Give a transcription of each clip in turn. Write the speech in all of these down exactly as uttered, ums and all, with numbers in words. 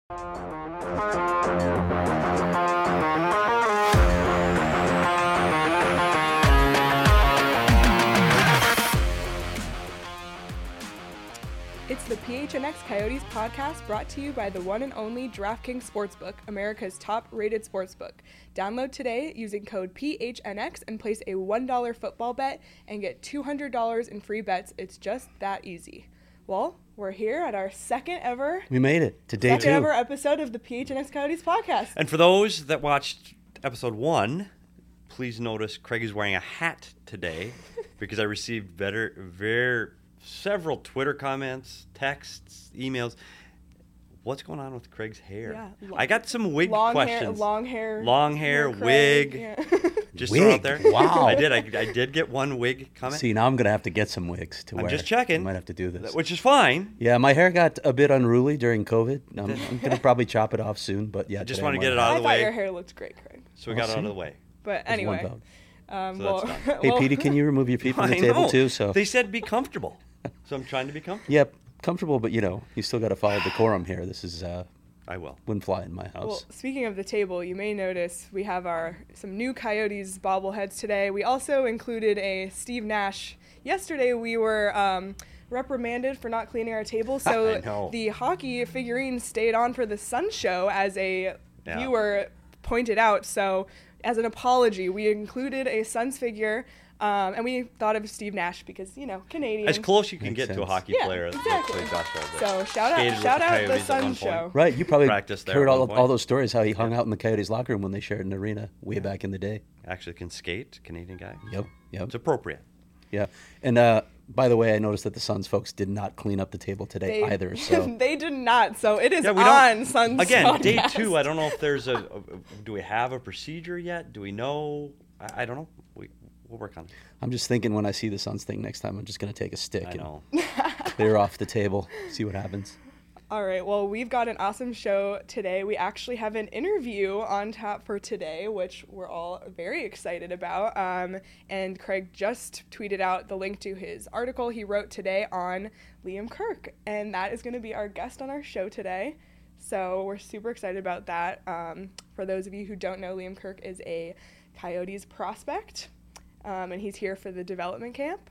It's the P H N X Coyotes podcast brought to you by the one and only DraftKings Sportsbook, America's top-rated sportsbook. Download today using code P H N X and place a one dollar football bet and get two hundred dollars in free bets. It's just that easy. Well, we're here at our second ever... We made it to day second two. ever episode of the P H N X Coyotes podcast. And for those that watched episode one, please notice Craig is wearing a hat today because I received better, very... several Twitter comments, texts, emails. What's going on with Craig's hair? Yeah, lo- I got some wig long questions. Hair, long hair. Long hair, Craig, wig. Yeah. Just Wig? throw out there. Wow. I did. I, I did get one wig comment. See, now I'm going to have to get some wigs to I'm wear. just checking. I might have to do this. Which is fine. Yeah, my hair got a bit unruly during COVID. I'm, I'm going to probably chop it off soon, but yeah. I just today want to I'm get it wearing out I of the thought way. your hair looked great, Craig. So we I'll got it out see. of the way. But There's one anyway. vote. Um, So well, that's Hey, well- Petey, can you remove your feet from the I table know. too? So They said be comfortable. So I'm trying to be comfortable. Yep, comfortable, but you know, you still got to follow decorum here. This is uh, I will. wouldn't fly in my house. Well, speaking of the table, you may notice we have our some new Coyotes bobbleheads today. We also included a Steve Nash. Yesterday we were um, reprimanded for not cleaning our table, I so know. the hockey figurines stayed on for the Sun Show, as a Yeah. viewer pointed out. So as an apology, we included a Suns figure. Um, and we thought of Steve Nash because, you know, Canadian. As close you can Makes get to a sense. hockey Yeah, player. that exactly. plays basketball, but So shout out, skated with shout the out the Coyotes at Sun one point. Show. Right, you probably Practiced there heard at all, one point. all those stories how he hung out in the Coyotes locker room when they shared an arena way back in the day. Actually can skate, Canadian guy. Yep, yep. It's appropriate. Yeah, and uh, by the way, I noticed that the Suns folks did not clean up the table today They, either. So they did not. So it is Yeah, we on don't, Suns again, day podcast. two, I don't know if there's a, a, do we have a procedure yet? Do we know? I, I don't know. We, we'll work on it. I'm just thinking when I see the Suns thing next time, I'm just going to take a stick I and know. clear off the table, see what happens. All right. Well, we've got an awesome show today. We actually have an interview on tap for today, which we're all very excited about. Um, and Craig just tweeted out the link to his article he wrote today on Liam Kirk. And that is going to be our guest on our show today. So we're super excited about that. Um, for those of you who don't know, Liam Kirk is a Coyotes prospect. Um, and he's here for the development camp.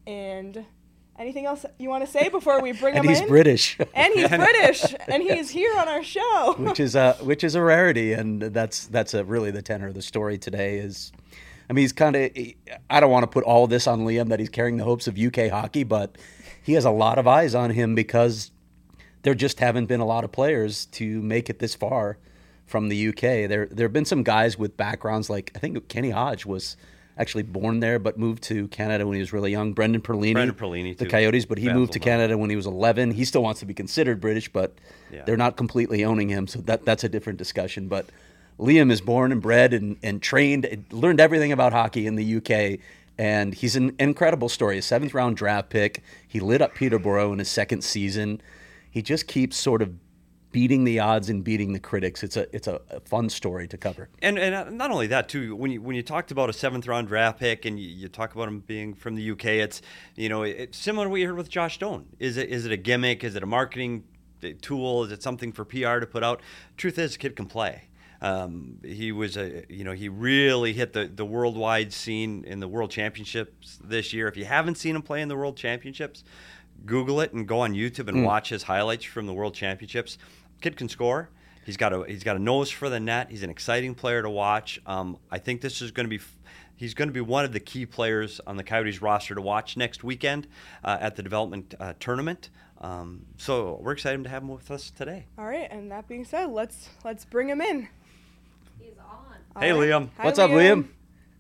And anything else you want to say before we bring And him he's in? British, And he's British, and he's here on our show. which is a which is a rarity, and that's that's a, really the tenor of the story today. Is, I mean, he's kind of. I don't want to put all this on Liam that he's carrying the hopes of U K hockey, but he has a lot of eyes on him because there just haven't been a lot of players to make it this far from the U K. There there have been some guys with backgrounds like I think Kenny Hodge was actually born there but moved to Canada when he was really young. Brendan Perlini, Brendan Perlini, the too. Coyotes, but he moved to Baffled Canada when he was eleven. He still wants to be considered British, but Yeah. they're not completely owning him, so that that's a different discussion. But Liam is born and bred and, and trained, and learned everything about hockey in the U K, and he's an incredible story. A seventh round draft pick. He lit up Peterborough in his second season. He just keeps sort of beating the odds and beating the critics. It's a it's a, a fun story to cover. And and not only that too, when you when you talked about a seventh round draft pick and you, you talk about him being from the U K, it's you know it's similar to what you heard with Josh Stone. Is it is it a gimmick? Is it a marketing tool? Is it something for P R to put out? Truth is, the kid can play. Um, he was a you know he really hit the the worldwide scene in the World Championships this year. If you haven't seen him play in the World Championships, Google it and go on YouTube and Mm. watch his highlights from the World Championships. Kid can score. He's got a he's got a nose for the net. He's an exciting player to watch. Um, I think this is going to be he's going to be one of the key players on the Coyotes roster to watch next weekend uh, at the development uh, tournament. Um, so we're excited to have him with us today. All right, and that being said, let's let's bring him in. He's on. All Hey, right. Liam. Hi, What's up, Liam?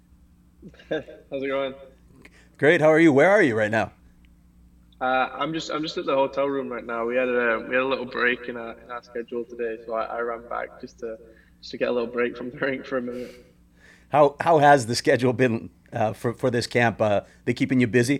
How's it going? Great. How are you? Where are you right now? Uh, I'm just I'm just at the hotel room right now. We had a we had a little break in our in our schedule today, so I, I ran back just to just to get a little break from the rink for a minute. How how has the schedule been uh, for for this camp? Uh, they keeping you busy?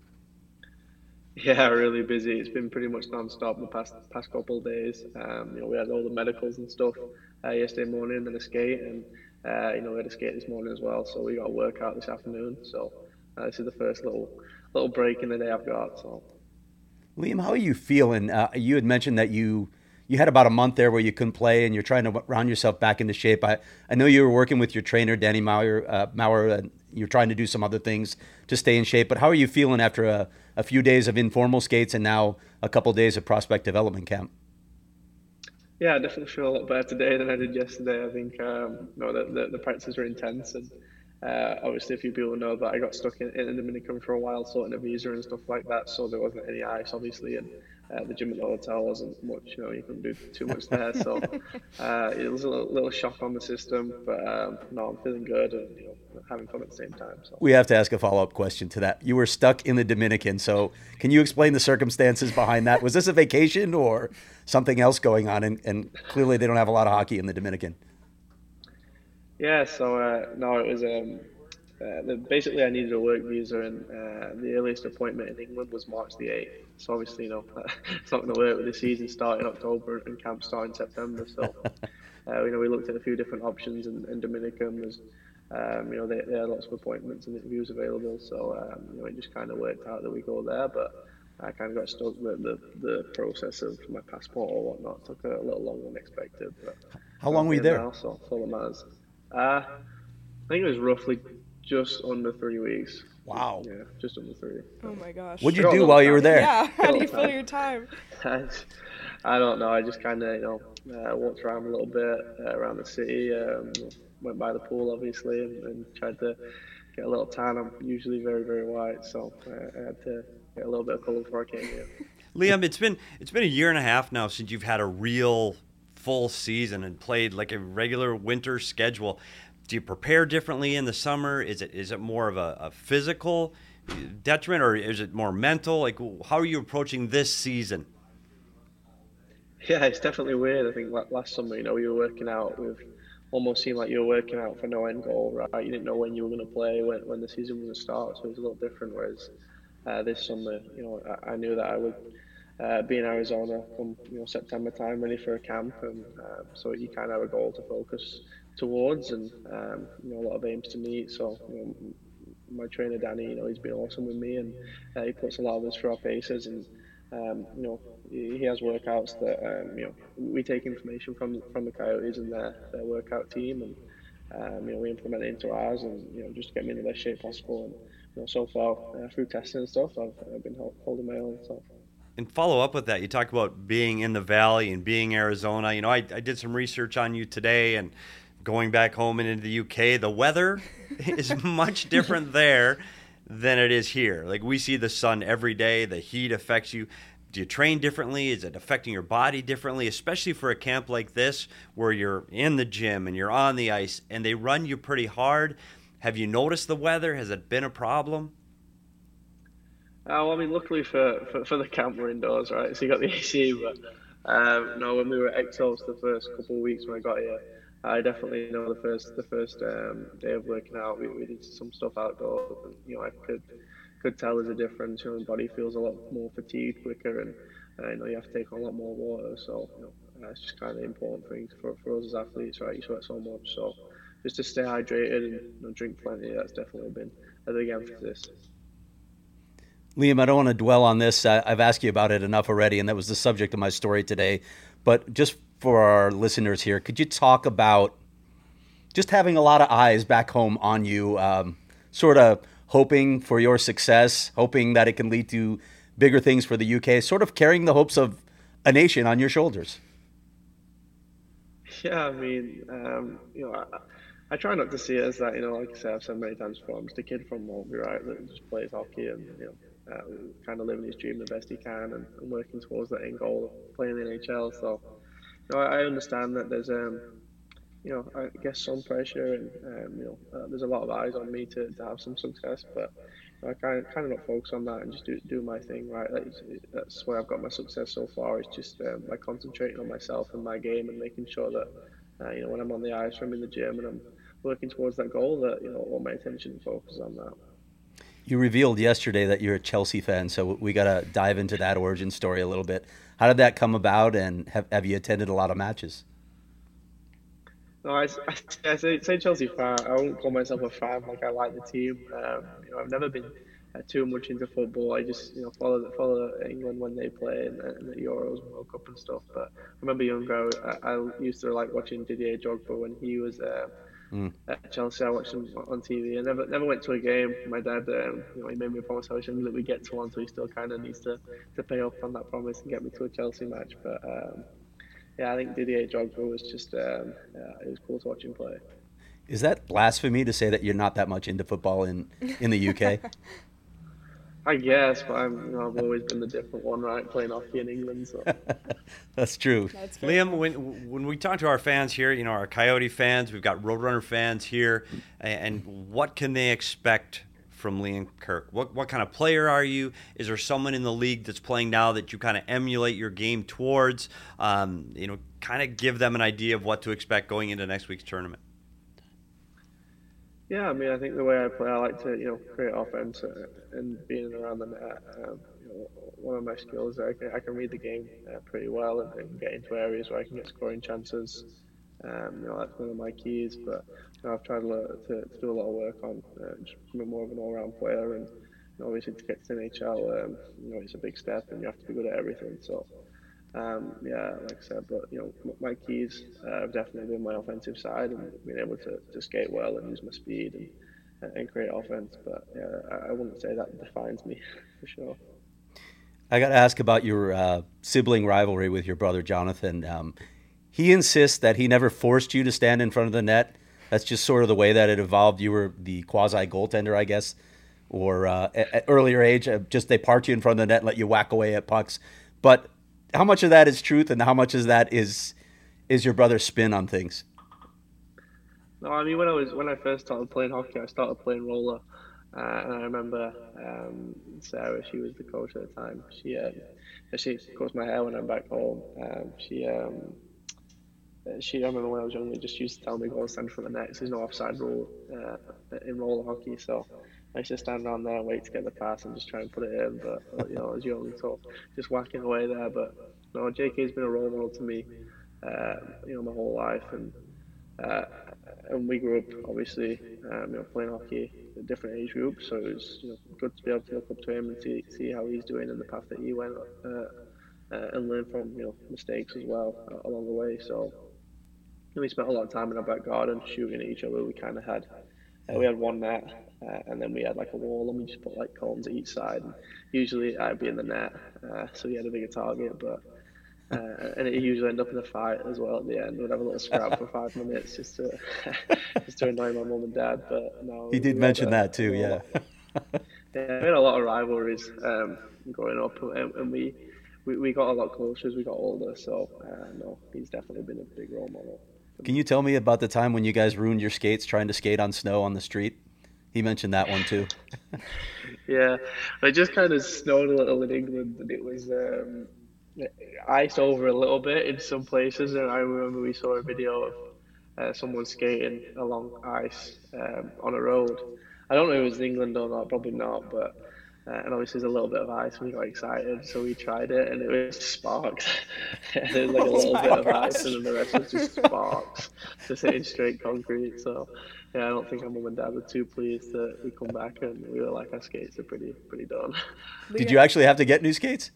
Yeah, really busy. It's been pretty much non-stop the past past couple of days. Um, you know, we had all the medicals and stuff uh, yesterday morning, and then a skate, and uh, you know, we had a skate this morning as well. So we got a workout this afternoon. So uh, this is the first little little break in the day I've got. So Liam, how are you feeling? Uh, you had mentioned that you you had about a month there where you couldn't play and you're trying to round yourself back into shape. I, I know you were working with your trainer, Danny Maurer, uh, Maurer, and you're trying to do some other things to stay in shape. But how are you feeling after a, a few days of informal skates and now a couple of days of prospect development camp? Yeah, I definitely feel a lot better today than I did yesterday. I think um, you know, the, the, the practices were intense, and uh, obviously a few people know that I got stuck in, in the Dominican for a while sorting a visa and stuff like that, so there wasn't any ice obviously, and uh, the gym at the hotel wasn't much, you know, you couldn't do too much there, so uh, it was a little, little shock on the system, but um, no, I'm feeling good and, you know, having fun at the same time. So. We have to ask a follow-up question to that. You were stuck in the Dominican, so can you explain the circumstances behind that? Was this a vacation or something else going on? And, and clearly they don't have a lot of hockey in the Dominican. Yeah, so uh, no, it was um, uh, the, basically I needed a work visa, and uh, the earliest appointment in England was March the eighth. So obviously, you know, it's not going to work with the season starting in October and camp starting in September. So, uh, you know, we looked at a few different options, and, and Dominican was, um, you know, they, they had lots of appointments and interviews available. So, um, you know, it just kind of worked out that we go there, but I kind of got stuck with the, the process of my passport or whatnot. It took a little longer than expected. But how long were you there? Now, so that's all that matters. Uh, I think it was roughly just under three weeks. Wow. Yeah, just under three. Oh my gosh. What'd you do while you were there? Yeah, how do you fill your time? I don't know. I just kind of, you know, uh, walked around a little bit uh, around the city. Um, went by the pool, obviously, and, and tried to get a little tan. I'm usually very, very white, so I, I had to get a little bit of color before I came here. Liam, it's been it's been a year and a half now since you've had a real full season and played like a regular winter schedule. Do you prepare differently in the summer? Is it is it more of a, a physical detriment, or is it more mental? Like, how are you approaching this season? Yeah, it's definitely weird. I think last summer, you know, you were working out with almost seemed like you were working out for no end goal, right? You didn't know when you were going to play, when when the season was going to start, so it was a little different. Whereas uh, this summer, you know, I, I knew that I would uh, be in Arizona come, you know, September time, ready for a camp, and uh, so you kind of have a goal to focus towards, and um, you know, a lot of aims to meet. So, you know, my trainer Danny, you know, he's been awesome with me, and uh, he puts a lot of us through our paces, and um, you know, he, he has workouts that um, you know, we take information from from the Coyotes and their their workout team, and um, you know, we implement it into ours, and you know, just to get me in the best shape possible. And you know, so far uh, through testing and stuff, I've, I've been holding my own. So. And follow up with that, you talk about being in the Valley and being Arizona. You know, I, I did some research on you today, and going back home and into the U K, the weather is much different there than it is here. Like, we see the sun every day. The heat affects you. Do you train differently? Is it affecting your body differently, especially for a camp like this where you're in the gym and you're on the ice and they run you pretty hard? Have you noticed the weather? Has it been a problem? Uh, well, I mean, luckily for, for, for the camp, we're indoors, right? So you got the A C, but um, no, when we were at Exos the first couple of weeks when I got here, I definitely know the first the first um, day of working out, we, we did some stuff outdoors. And, you know, I could could tell there's a difference. You know, the body feels a lot more fatigued quicker, and uh, you know, you have to take on a lot more water. So you know, uh, it's just kind of important things for, for us as athletes, right? You sweat so much, so just to stay hydrated and you know, drink plenty. That's definitely been a big emphasis. Liam, I don't want to dwell on this. I, I've asked you about it enough already, and that was the subject of my story today. But just for our listeners here, could you talk about just having a lot of eyes back home on you, um, sort of hoping for your success, hoping that it can lead to bigger things for the U K, sort of carrying the hopes of a nation on your shoulders? Yeah, I mean, um, you know, I, I try not to see it as that, you know, like I said, I've said many times before, I'm just a kid from Maltby, right, that just plays hockey and, you know, Uh, kind of living his dream the best he can, and, and working towards that end goal of playing in the N H L. So, you know, I, I understand that there's, um, you know, I guess some pressure, and um, you know, uh, there's a lot of eyes on me to, to have some success. But you know, I kind of kind of not focus on that and just do do my thing. Right, that's, that's where I've got my success so far. It's just um, by concentrating on myself and my game, and making sure that uh, you know, when I'm on the ice or I'm in the gym and I'm working towards that goal, that you know, all my attention and focus on that. You revealed yesterday that you're a Chelsea fan, so we got to dive into that origin story a little bit. How did that come about, and have, have you attended a lot of matches? No, I, I, I say, say Chelsea fan. I wouldn't call myself a fan. Like, I like the team. Um, you know, I've never been uh, too much into football. I just you know follow follow England when they play in, the- in the Euros and World Cup and stuff. But I remember younger, I, I used to like watching Didier Drogba when he was. Uh, Mm. at Chelsea. I watched him on T V. I never never went to a game. My dad, um, you know, he made me a promise I was young that we get to one, so he still kind of needs to, to pay up on that promise and get me to a Chelsea match. But um, yeah, I think Didier Drogba was just um, yeah, it was cool to watch him play. Is that blasphemy to say that you're not that much into football in, in the U K? I guess, but I'm, you know, I've always been the different one, right? Playing hockey in England, so. That's true. That's fair. Liam, when when we talk to our fans here, you know, our Coyote fans, we've got Roadrunner fans here, and what can they expect from Liam Kirk? What what kind of player are you? Is there someone in the league that's playing now that you kind of emulate your game towards? Um, you know, kind of give them an idea of what to expect going into next week's tournament. Yeah, I mean, I think the way I play, I like to, you know, create offense uh, and being around the net. Um, you know, one of my skills, I can, I can read the game uh, pretty well and, and get into areas where I can get scoring chances. Um, you know, that's one of my keys. But you know, I've tried to, to, to do a lot of work on uh, just becoming more of an all-round player. And you know, obviously, to get to the N H L, um, you know, it's a big step, and you have to be good at everything. So. Um, yeah, like I said, but you know, my keys uh, have definitely been my offensive side and being able to, to skate well and use my speed and, and create offense. But yeah, I wouldn't say that defines me for sure. I got to ask about your uh, sibling rivalry with your brother Jonathan. Um, he insists that he never forced you to stand in front of the net. That's just sort of the way that it evolved. You were the quasi goaltender, I guess, or uh, at, at earlier age, uh, just they parked you in front of the net and let you whack away at pucks. But how much of that is truth, and how much of that is is your brother's spin on things? No, I mean when I was when I first started playing hockey, I started playing roller, uh, and I remember um, Sarah. She was the coach at the time. She uh, she cuts my hair when I'm back home. Um, she um, she I remember when I was younger, just used to tell me go stand for the net. There's no offside rule uh, in roller hockey, so. I used to stand around there and wait to get the pass and just try and put it in, but you know, I was young, so just whacking away there. But no, J K's been a role model to me, uh, you know, my whole life, and uh, and we grew up obviously, um, you know, playing hockey at different age groups, so it was you know good to be able to look up to him and see see how he's doing in the path that he went, uh, uh, and learn from you know mistakes as well uh, along the way. So you know, we spent a lot of time in our back garden shooting at each other. We kind of had uh, we had one net. Uh, and then we had like a wall and we just put like cones at each side. And usually I'd be in the net, uh, so we had a bigger target. But uh, and it usually ended up in a fight as well at the end. We'd have a little scrap for five minutes just to just to annoy my mum and dad. But no, he did mention a, that too, yeah. yeah, we had a lot of rivalries um, growing up, and, and we, we we got a lot closer as we got older. So uh, no, he's definitely been a big role model. Can you tell me about the time when you guys ruined your skates trying to skate on snow on the street? He mentioned that one too. Yeah, it just kind of snowed a little in England, and it was um, iced over a little bit in some places. And I remember we saw a video of uh, someone skating along ice um, on a road. I don't know if it was in England or not, probably not, but uh, and obviously there's a little bit of ice. We got excited, so we tried it, and it was sparks. There's like a little oh bit of ice, and then the rest was just sparks, just hitting straight concrete. So. Yeah, I don't think our mum and dad were too pleased that we come back and we were like, our skates are pretty pretty done. Did you actually have to get new skates?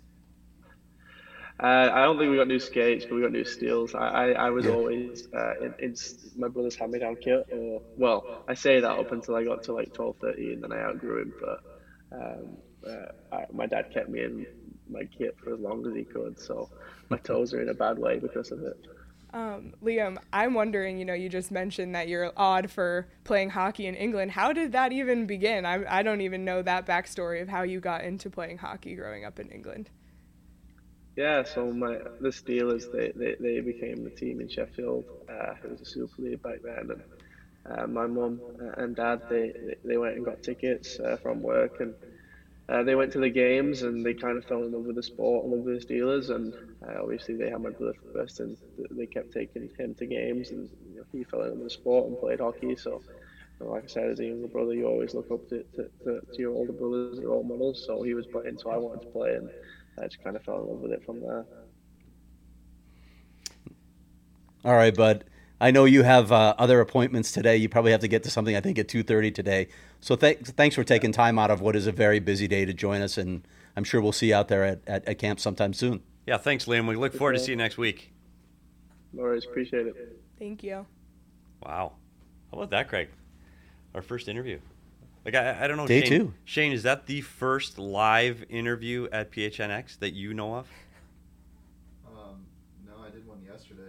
Uh, I don't think we got new skates, but we got new steels. I, I, I was yeah. always uh, in, in my brother's hand-me-down kit. Or, well, I say that up until I got to like twelve, thirteen, and then I outgrew him. But um, uh, I, my dad kept me in my kit for as long as he could, so my toes are in a bad way because of it. Um, Liam, I'm wondering, you know, you just mentioned that you're odd for playing hockey in England. How did that even begin? I, I don't even know that backstory of how you got into playing hockey growing up in England. Yeah, so my the Steelers, they, they, they became the team in Sheffield. Uh, it was a Super League back then. And uh, my mum and dad, they, they went and got tickets uh, from work, and Uh, they went to the games and they kind of fell in love with the sport and love with the Steelers, and uh, obviously they had my brother first and they kept taking him to games, and you know, he fell in love with the sport and played hockey. So you know, like I said, as a younger brother, you always look up to, to, to, to your older brothers as role models. So he was playing, so I wanted to play, and I just kind of fell in love with it from there. All right, bud. I know you have uh, other appointments today. You probably have to get to something, I think, at two thirty today. So th- thanks for taking time out of what is a very busy day to join us, and I'm sure we'll see you out there at, at, at camp sometime soon. Yeah, thanks, Liam. We look forward to see you next week. No worries. Appreciate it. Thank you. Wow. How about that, Craig? Our first interview. Like, I, I don't know, Day Shane, two. Shane, is that the first live interview at P H N X that you know of? Um, no, I did one yesterday.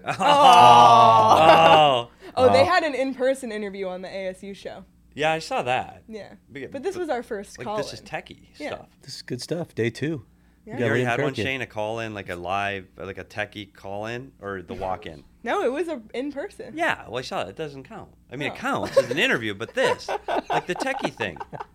Oh. Oh, they Oh. had an in-person interview on the A S U show. Yeah, I saw that. Yeah. But- But this but, was our first Like, call. this is techie Yeah. stuff. This is good stuff. Day two. Yeah. You already Liam had one, Kirk in. Shane, a call-in, like a live, like a techie call-in, or the walk-in? No, it was a in-person. Yeah, well, I saw it. It doesn't count. I mean, No. it counts as an interview, but this, like the techie thing.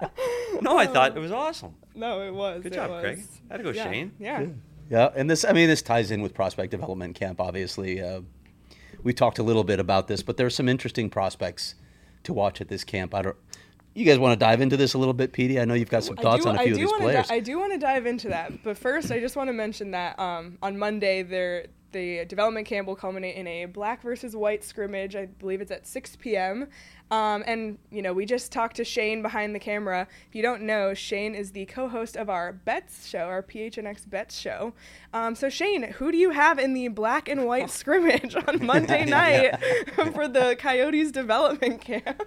No, I thought it was awesome. No, it was. Good it job, was. Craig. Had to go, yeah. Shane. Yeah. Yeah, and this, I mean, this ties in with prospect development camp, obviously. Uh, we talked a little bit about this, but there's some interesting prospects to watch at this camp. I don't, you guys want to dive into this a little bit, Petey? I know you've got some thoughts do, on a I few of do these wanna players. Di- I do want to dive into that, but first, I just want to mention that um, on Monday, there the development camp will culminate in a black versus white scrimmage. I believe it's at six p.m. Um, and, you know, we just talked to Shane behind the camera. If you don't know, Shane is the co-host of our Bets show, our P H N X Bets show. Um, so, Shane, who do you have in the black and white scrimmage on Monday night for the Coyotes development camp?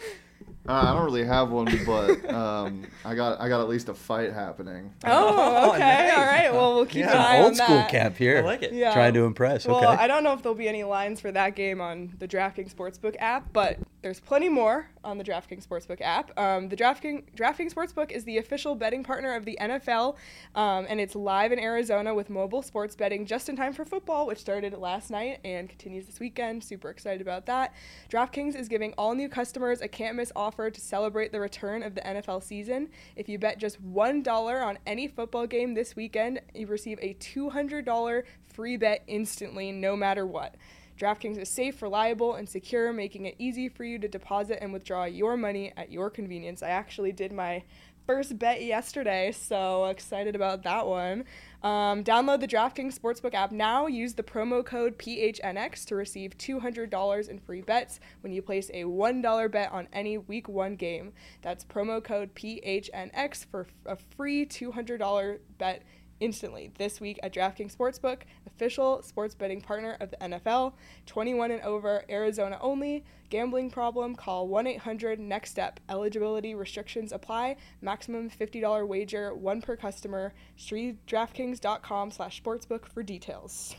Uh, I don't really have one, but um, I got I got at least a fight happening. Oh, Oh, okay. nice. All right. Well, we'll keep Yeah. an eye on Old school that. camp here. I like it. Yeah. Trying to impress. Well, Okay. I don't know if there'll be any lines for that game on the DraftKings Sportsbook app, but there's plenty more on the DraftKings Sportsbook app. Um, the DraftKings, DraftKings Sportsbook is the official betting partner of the N F L, um, and it's live in Arizona with mobile sports betting just in time for football, which started last night and continues this weekend. Super excited about that. DraftKings is giving all new customers a can't-miss offer to celebrate the return of the N F L season. If you bet just one dollar on any football game this weekend, you receive a two hundred dollars free bet instantly, no matter what. DraftKings is safe, reliable, and secure, making it easy for you to deposit and withdraw your money at your convenience. I actually did my first bet yesterday, so excited about that one. Um, download the DraftKings Sportsbook app now. Use the promo code P H N X to receive two hundred dollars in free bets when you place a one dollar bet on any Week one game. That's promo code P H N X for a free two hundred dollars bet instantly this week at DraftKings Sportsbook, official sports betting partner of the N F L. twenty-one and over, Arizona only. Gambling problem? Call one eight hundred next step. Eligibility restrictions apply. Maximum fifty dollars wager, one per customer. See DraftKings.com slash sportsbook for details.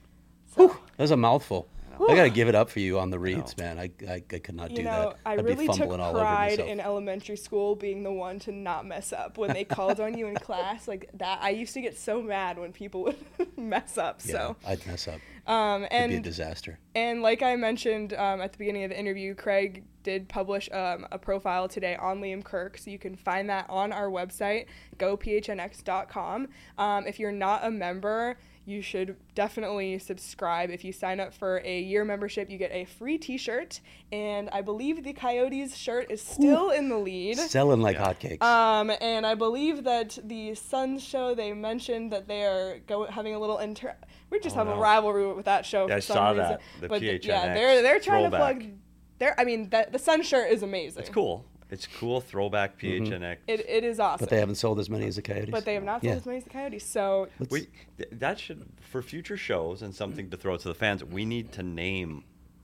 So, That was a mouthful. I got to give it up for you on the reads, man. I, I, I could not you do know, that. I I'd really be took fumbling all over pride myself. in elementary school being the one to not mess up when they called on you in class like that. I used to get so mad when people would mess up. yeah, So, I'd mess up. um, It'd be a and disaster. And like I mentioned um, at the beginning of the interview, Craig did publish um, a profile today on Liam Kirk, so you can find that on our website, go P H N X dot com. Um, if you're not a member, you should definitely subscribe. If you sign up for a year membership, you get a free t-shirt, and I believe the Coyotes shirt is still in the lead. Selling like hotcakes. Um, and I believe that the Suns show, they mentioned that they are go- having a little inter. We just Oh, have no. a rivalry with that show Yeah, for I some saw reason. that, the but P H N X yeah, they're they're trying throwback. to plug. They're, I mean, the the Sun shirt is amazing. It's cool. It's cool. Throwback P H N X. It it is awesome. but they haven't sold as many as the Coyotes. But they have not sold Yeah. as many as the Coyotes. So Let's- We th- that should for future shows and something to throw to the fans. We need to name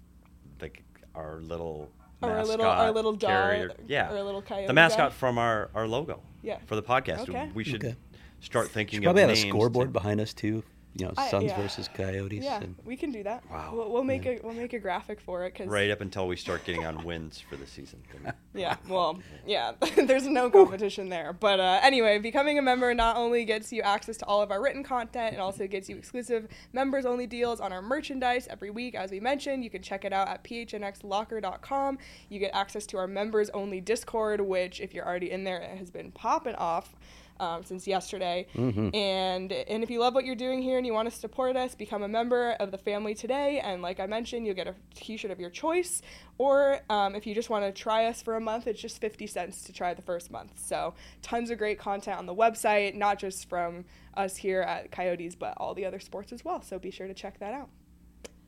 like our little Or our mascot little- our little dog, carrier. Yeah, or a little coyote the mascot guy. from our, our logo. Yeah. for the podcast. Okay. We should Okay. start thinking Should probably of have a names scoreboard to- behind us too. You know, I- Suns yeah. versus Coyotes. yeah, and- we can do that. Wow. We'll, we'll make a we'll make a graphic for it because right up until we start getting on wins for the season. Yeah, well, yeah, there's no competition there. But uh, anyway, becoming a member not only gets you access to all of our written content, it also gets you exclusive members-only deals on our merchandise every week. As we mentioned, you can check it out at P H N X locker dot com. You get access to our members-only Discord, which, if you're already in there, it has been popping off. Um, since yesterday. Mhm. And and if you love what you're doing here and you want to support us, become a member of the family today. And like I mentioned, you'll get a t-shirt of your choice. Or um, if you just want to try us for a month, it's just fifty cents to try the first month. So tons of great content on the website, not just from us here at Coyotes, but all the other sports as well. So be sure to check that out.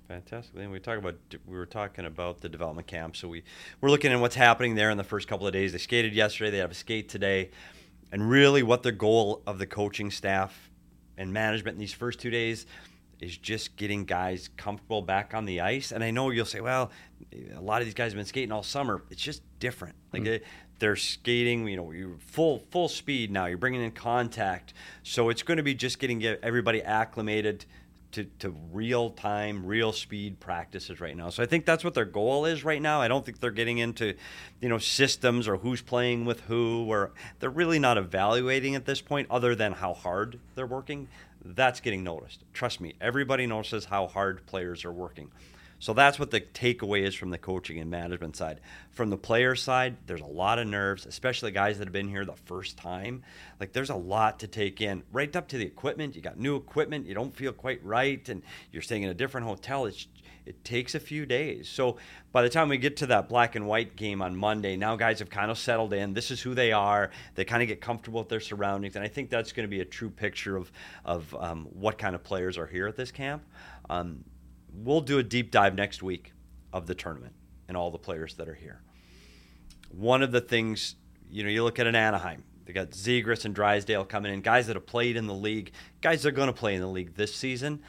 Fantastic. And we talk about we were talking about the development camp, so we we're looking at what's happening there in the first couple of days. They skated yesterday. They have a skate today, and really, what the goal of the coaching staff and management in these first two days is just getting guys comfortable back on the ice. And I know you'll say, well, a lot of these guys have been skating all summer. It's just different. Like mm-hmm. they, they're skating, you know, you're full full speed now. You're bringing in contact, so it's going to be just getting everybody acclimated to, to real-time, real speed practices right now. So I think that's what their goal is right now. I don't think they're getting into, you know, systems or who's playing with who, or they're really not evaluating at this point other than how hard they're working. That's getting noticed. Trust me, everybody notices how hard players are working. So that's what the takeaway is from the coaching and management side. From the player side, there's a lot of nerves, especially guys that have been here the first time. Like, there's a lot to take in. Right up to the equipment. You got new equipment. You don't feel quite right, and you're staying in a different hotel. It's, it takes a few days. So by the time we get to that black and white game on Monday, now guys have kind of settled in. This is who they are. They kind of get comfortable with their surroundings, and I think that's going to be a true picture of, of um, what kind of players are here at this camp. Um, We'll do a deep dive next week of the tournament and all the players that are here. One of the things, you know, you look at an Anaheim. They got Zegras and Drysdale coming in, guys that have played in the league, guys that are going to play in the league this season.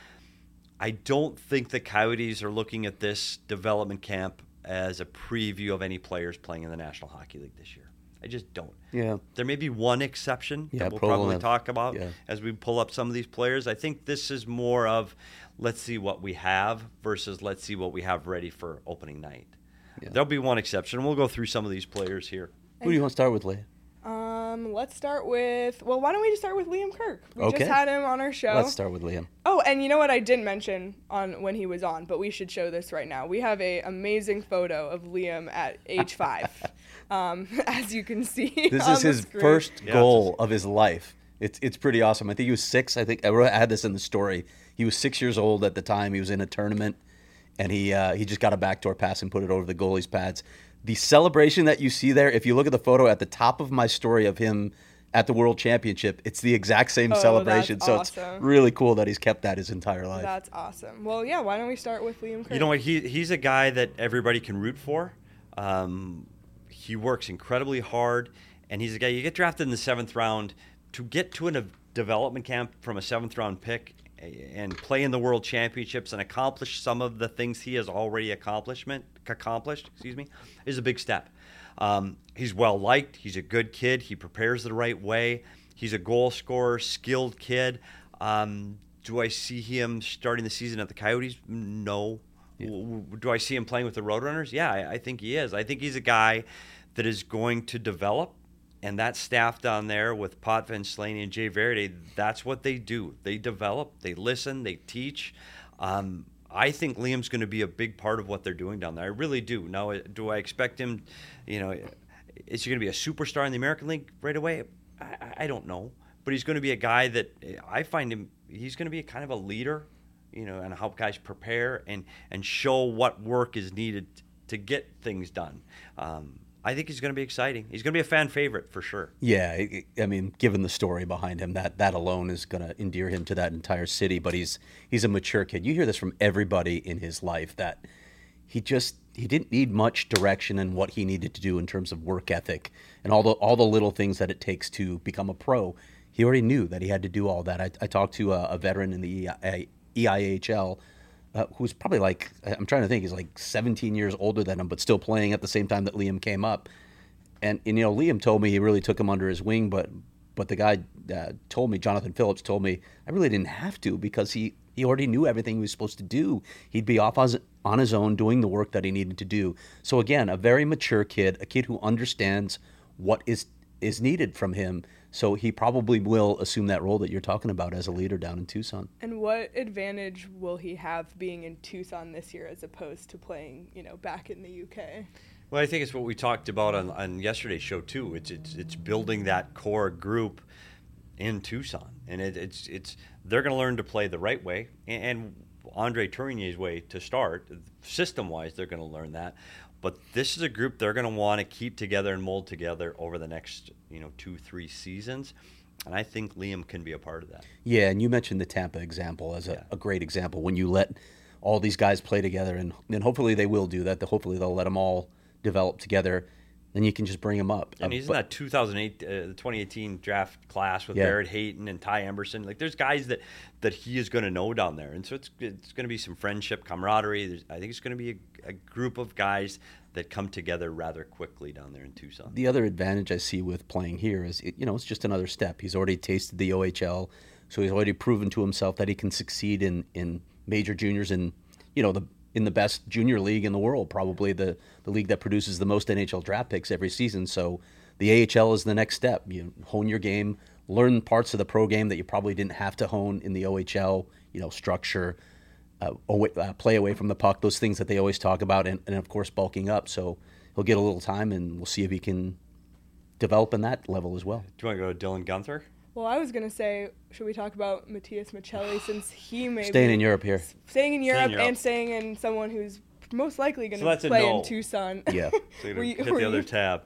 I don't think the Coyotes are looking at this development camp as a preview of any players playing in the National Hockey League this year. I just don't. Yeah. There may be one exception yeah, that we'll probably have, talk about yeah. as we pull up some of these players. I think this is more of, let's see what we have versus let's see what we have ready for opening night. Yeah. There'll be one exception. We'll go through some of these players here. Who do you want to start with, Leah? Um, let's start with, well, why don't we just start with Liam Kirk? We okay. just had him on our show. Let's start with Liam. Oh, and you know what I didn't mention on when he was on, but we should show this right now. We have a amazing photo of Liam at age five, um, as you can see. This on is the his screen. first Yeah, goal of his life. It's it's pretty awesome. I think he was six. I think I wrote- I had this in the story. He was six years old at the time. He was in a tournament, and he uh, he just got a backdoor pass and put it over the goalie's pads. The celebration that you see there, if you look at the photo at the top of my story of him at the World Championship, it's the exact same Oh, celebration. that's So awesome. it's really cool that he's kept that his entire life. That's awesome. Well, yeah, why don't we start with Liam Kirk? You know what? He he's a guy that everybody can root for. Um, he works incredibly hard, and he's a guy you get drafted in the seventh round to get to a development camp from a seventh round pick and play in the World Championships and accomplish some of the things he has already accomplishment accomplished. Excuse me, is a big step. Um, he's well liked. He's a good kid. He prepares the right way. He's a goal scorer, skilled kid. Um, do I see him starting the season at the Coyotes? No. Yeah. Do I see him playing with the Roadrunners? Yeah, I, I think he is. I think he's a guy that is going to develop. And that staff down there with Potvin, Slaney, and Jay Verdi, that's what they do. They develop, they listen, they teach. Um, I think Liam's going to be a big part of what they're doing down there. I really do. Now, do I expect him, you know, is he going to be a superstar in the American League right away? I, I don't know. But he's going to be a guy that I find him, he's going to be a kind of a leader, you know, and help guys prepare and, and show what work is needed to get things done. Um, I think he's going to be exciting. He's going to be a fan favorite for sure. Yeah, I mean, given the story behind him, that that alone is going to endear him to that entire city. But he's he's a mature kid. You hear this from everybody in his life that he just he didn't need much direction in what he needed to do in terms of work ethic and all the all the little things that it takes to become a pro. He already knew that he had to do all that. I, I talked to a, a veteran in the E I H L. Uh, who's probably like, I'm trying to think, he's like seventeen years older than him, but still playing at the same time that Liam came up. And, and you know, Liam told me he really took him under his wing, but but the guy uh, told me, Jonathan Phillips told me, I really didn't have to because he, he already knew everything he was supposed to do. He'd be off on, on his own doing the work that he needed to do. So again, a very mature kid, a kid who understands what is is needed from him. So he probably will assume that role that you're talking about as a leader down in Tucson. And what advantage will he have being in Tucson this year as opposed to playing, you know, back in the U K? Well, I think it's what we talked about on, on yesterday's show too. It's it's it's building that core group in Tucson, and it, it's it's they're going to learn to play the right way, and, and Andre Tournier's way to start. System-wise, they're going to learn that. But this is a group they're going to want to keep together and mold together over the next, you know, two, three seasons. And I think Liam can be a part of that. Yeah, and you mentioned the Tampa example as a, yeah. a great example. When you let all these guys play together, and, and hopefully they will do that. Hopefully they'll let them all develop together. Then you can just bring them up. And Uh, he's but- in that two thousand eight, uh, the twenty eighteen draft class with Yeah. Barrett Hayton and Ty Emberson. Like, there's guys that, that he is going to know down there, and so it's it's going to be some friendship, camaraderie. There's, I think it's going to be a, a group of guys that come together rather quickly down there in Tucson. The other advantage I see with playing here is, it, you know, it's just another step. He's already tasted the O H L, so he's already proven to himself that he can succeed in, in major juniors and, you know, the in the best junior league in the world, probably the, the league that produces the most N H L draft picks every season. So the A H L is the next step. You hone your game, learn parts of the pro game that you probably didn't have to hone in the O H L, you know, structure, uh, away, uh, play away from the puck, those things that they always talk about, and, and of course bulking up. So he'll get a little time, and we'll see if he can develop in that level as well. Do you want to go to Dylan Gunther? Well, I was gonna say, should we talk about Matthias Michelli since he may Staying be in Europe here. staying in Europe, Europe. and staying in someone who's most likely going So to that's a play no. in Tucson. Yeah. So you Were you- hit were the other you- tab.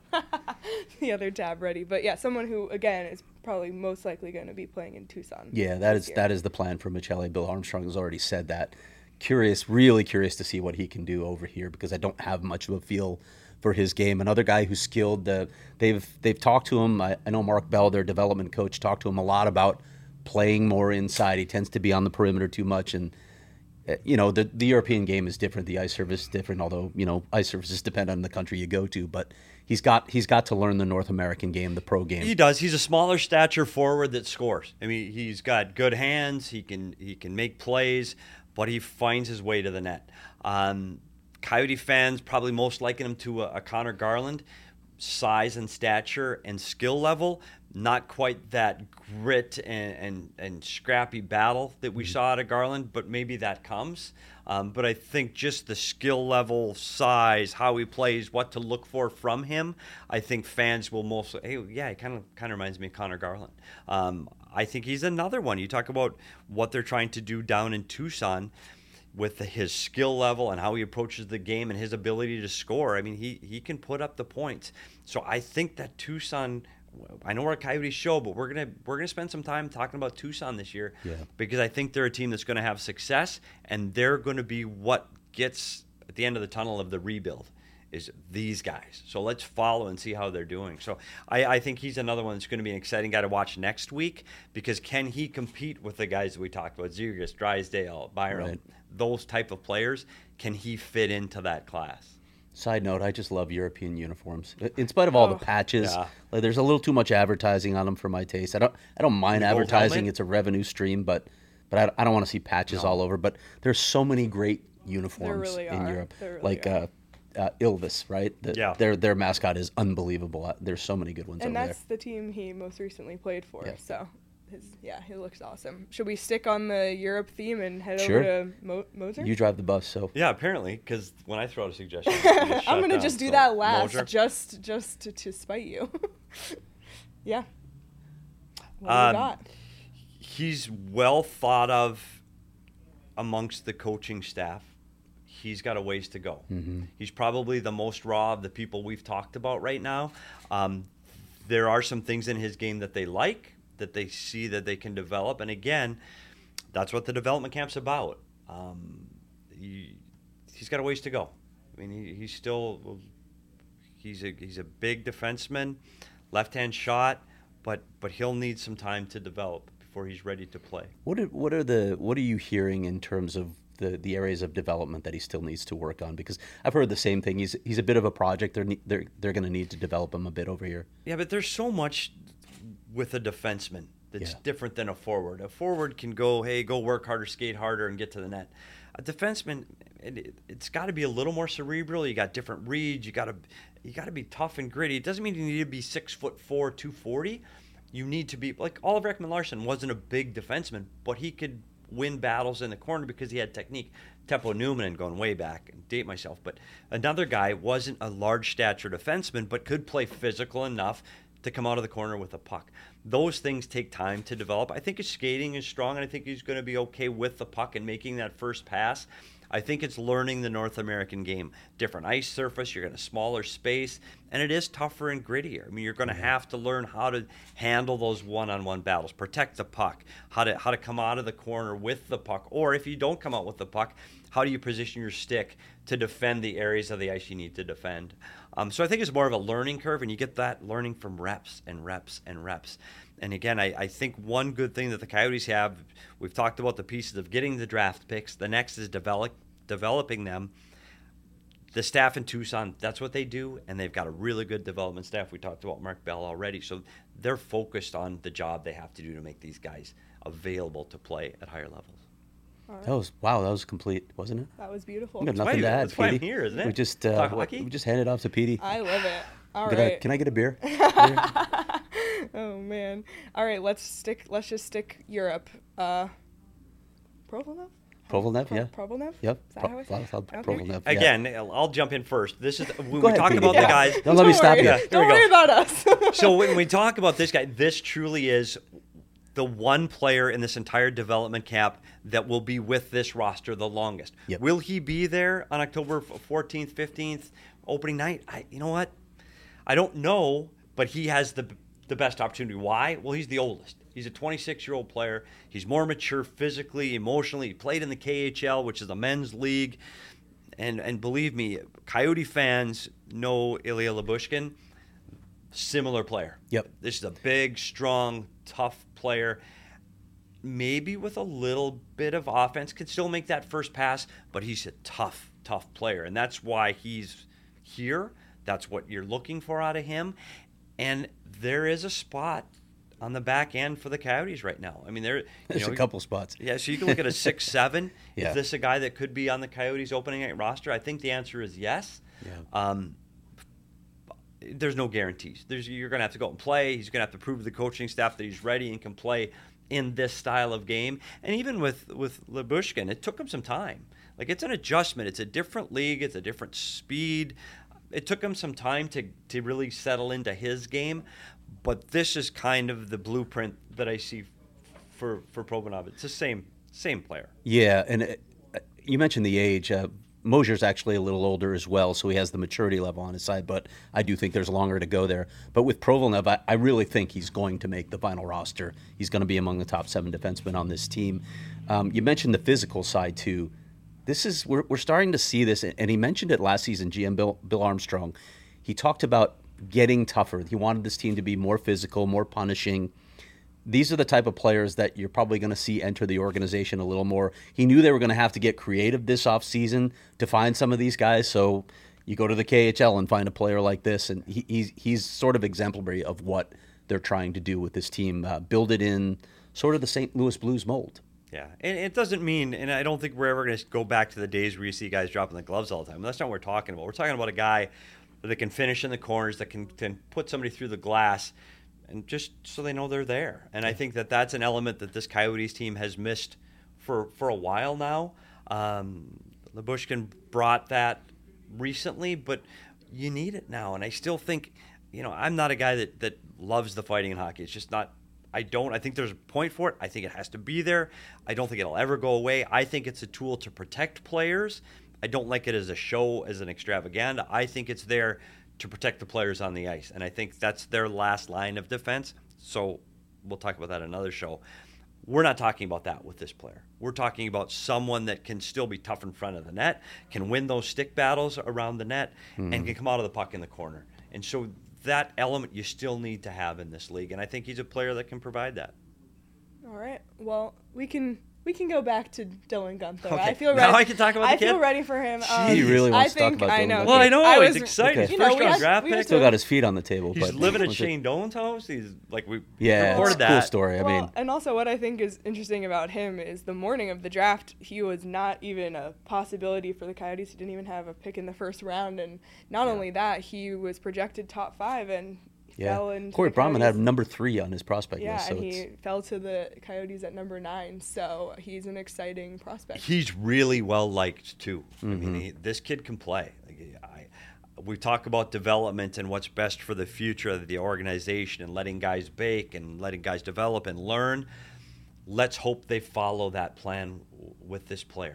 the other tab ready, but yeah, someone who again is probably most likely going to be playing in Tucson. Yeah, that this is year. that is the plan for Michelli. Bill Armstrong has already said that. Curious, really curious to see what he can do over here, because I don't have much of a feel for his game. Another guy who's skilled. Uh, they've they've talked to him. I, I know Mark Bell, their development coach, talked to him a lot about playing more inside. He tends to be on the perimeter too much, and uh, you know the the European game is different. The ice surface is different. Although you know ice surfaces depend on the country you go to, but he's got he's got to learn the North American game, the pro game. He does. He's a smaller stature forward that scores. I mean, he's got good hands. He can he can make plays, but he finds his way to the net. Um, Coyote fans probably most liken him to a, a Connor Garland, size and stature and skill level. Not quite that grit and, and, and scrappy battle that we saw out of Garland, but maybe that comes. Um, but I think just the skill level, size, how he plays, what to look for from him, I think fans will mostly, hey, yeah, he kind of kind of reminds me of Connor Garland. Um, I think he's another one. You talk about what they're trying to do down in Tucson with the, his skill level and how he approaches the game and his ability to score. I mean, he, he can put up the points. So I think that Tucson, I know we're a Coyote show, but we're gonna we're gonna spend some time talking about Tucson this year, Yeah. because I think they're a team that's going to have success, and they're going to be what gets at the end of the tunnel of the rebuild is these guys. So let's follow and see how they're doing. So I, I think he's another one that's going to be an exciting guy to watch next week, because can he compete with the guys that we talked about, Zegras, Drysdale, Byram, Right. those type of players? Can he fit into that class? Side note, I just love European uniforms. In spite of all Oh. the patches, Yeah. like, there's a little too much advertising on them for my taste. I don't I don't mind The gold advertising. helmet? It's a revenue stream, but but I, I don't want to see patches all over. But there's so many great uniforms really in are. Europe. There really like are. uh, uh, Ilves, right? The, Yeah. Their their mascot is unbelievable. Uh, There's so many good ones And over that's the team he most recently played for. Yeah. So, his yeah, he looks awesome. Should we stick on the Europe theme and head Sure. over to Mo- Moser? there. You drive the bus, so Yeah, apparently, because when I throw out a suggestion, you just I'm shut gonna down. just do So, that last, Moser? just just to, to spite you. yeah. What do Um, you got? He's well thought of amongst the coaching staff. He's got a ways to go. Mm-hmm. He's probably the most raw of the people we've talked about right now. Um, there are some things in his game that they like, that they see that they can develop. And again, that's what the development camp's about. Um, he, he's got a ways to go. I mean, he, he's still he's a he's a big defenseman, left-hand shot, but but he'll need some time to develop before he's ready to play. what are, what are the what are you hearing in terms of the, the areas of development that he still needs to work on? Because I've heard the same thing. He's he's a bit of a project. They're ne- they're they're going to need to develop him a bit over here. Yeah, but there's so much with a defenseman that's Yeah. different than a forward. A forward can go, hey, go work harder, skate harder, and get to the net. A defenseman, it, it's got to be a little more cerebral. You got different reads. You got to you got to be tough and gritty. It doesn't mean you need to be six foot four, two forty. You need to be like Oliver Ekman-Larsson wasn't a big defenseman, but he could win battles in the corner because he had technique. Teppo Newman, going way back and date myself, but another guy wasn't a large stature defenseman, but could play physical enough to come out of the corner with a puck. Those things take time to develop. I think his skating is strong, and I think he's going to be okay with the puck and making that first pass. I think it's learning the North American game. Different ice surface, you're in a smaller space, and it is tougher and grittier. I mean, you're going to have to learn how to handle those one-on-one battles, protect the puck, how to how to come out of the corner with the puck, or if you don't come out with the puck, how do you position your stick to defend the areas of the ice you need to defend? Um, so I think it's more of a learning curve, and you get that learning from reps and reps and reps. And again, I, I think one good thing that the Coyotes have, we've talked about the pieces of getting the draft picks. The next is develop, developing them. The staff in Tucson, that's what they do, and they've got a really good development staff. We talked about Mark Bell already. So they're focused on the job they have to do to make these guys available to play at higher levels. Right. That was wow. That was complete, wasn't it? That was beautiful. We got That's nothing why- to add, that's why I'm Petey. here, isn't it? We just uh, Talk we- hockey? we just handed off to Petey. I love it. All Can right. I, can I get a beer? Oh man. All right, let's stick let's just stick Europe. Uh Provolnev? Provolnev, Pro- yeah. Provolnev? Yep. Is that how I Pro- say it? Pro- Okay. Provolnev, yeah. Again, I'll jump in first. This is when Go we ahead, talk Petey. about Yeah. the guys. Don't let me Don't stop worry. you. Yeah, there Don't we worry go. about us. So when we talk about this guy, this truly is the one player in this entire development camp that will be with this roster the longest. Yep. Will he be there on October fourteenth, fifteenth, opening night? I, you know what? I don't know, but he has the the best opportunity. Why? Well, he's the oldest. He's a twenty-six-year-old player. He's more mature physically, emotionally. He played in the K H L, which is a men's league. And and believe me, Coyote fans know Ilya Lyubushkin. Similar player. Yep. This is a big, strong, tough player. Maybe with a little bit of offense, can still make that first pass, but he's a tough, tough player. And that's why he's here. That's what you're looking for out of him. And there is a spot on the back end for the Coyotes right now. I mean, there. You There's know, a couple spots. Yeah, so you can look at a six seven. Yeah. Is this a guy that could be on the Coyotes opening night roster? I think the answer is yes. Yeah. Um, there's no guarantees. There's you're going to have to go and play. He's going to have to prove to the coaching staff that he's ready and can play in this style of game. And even with with Lyubushkin, it took him some time. Like, it's an adjustment. It's a different league. It's a different speed. It took him some time to to really settle into his game. But this is kind of the blueprint that I see for for Provolnev. It's the same same player. Yeah, and uh, you mentioned the age. Uh, Mosier's actually a little older as well, so he has the maturity level on his side, but I do think there's longer to go there. But with Provolnev, I, I really think he's going to make the final roster. He's going to be among the top seven defensemen on this team. Um, you mentioned the physical side, too. This is we're, we're starting to see this, and he mentioned it last season, G M Bill, Bill Armstrong. He talked about getting tougher. He wanted this team to be more physical, more punishing. These are the type of players that you're probably going to see enter the organization a little more. He knew they were going to have to get creative this offseason to find some of these guys, so you go to the K H L and find a player like this, and he, he's, he's sort of exemplary of what they're trying to do with this team, uh, build it in sort of the Saint Louis Blues mold. Yeah, and it doesn't mean, and I don't think we're ever going to go back to the days where you see guys dropping the gloves all the time. That's not what we're talking about. We're talking about a guy that can finish in the corners, that can, can put somebody through the glass, and just so they know they're there. And I think that that's an element that this Coyotes team has missed for, for a while now. Um, Lyubushkin brought that recently, but you need it now. And I still think, you know, I'm not a guy that, that loves the fighting in hockey. It's just not, I don't, I think there's a point for it. I think it has to be there. I don't think it'll ever go away. I think it's a tool to protect players. I don't like it as a show, as an extravaganza. I think it's there to protect the players on the ice. And I think that's their last line of defense. So we'll talk about that in another show. We're not talking about that with this player. We're talking about someone that can still be tough in front of the net, can win those stick battles around the net, mm-hmm. and can come out of the puck in the corner. And so that element you still need to have in this league. And I think he's a player that can provide that. All right. Well, we can we can go back to Dylan Gunther. Okay. I feel Now ready. I can talk about the I kid? feel ready for him. Um, He really wants I to talk think, about I Dylan know. Gunther. Well, I know. I He's was- excited. Okay. His You know, first we round had- draft we pick. had Still got his feet on the table. He's but living at was it- Shane Doan's house. He's like, we Yeah, it's recorded a cool that. story. I well, mean, and also what I think is interesting about him is the morning of the draft, he was not even a possibility for the Coyotes. He didn't even have a pick in the first round, and not Yeah. only that, he was projected top five and yeah. fell into Corey the Brahman Coyotes. had number three on his prospect Yeah, list. So and it's, he fell to the Coyotes at number nine, so he's an exciting prospect. He's really well liked too. I Mm-hmm. mean, he, this kid can play. Like, I, we talk about development and what's best for the future of the organization and letting guys bake and letting guys develop and learn. Let's hope they follow that plan w- with this player. Uh,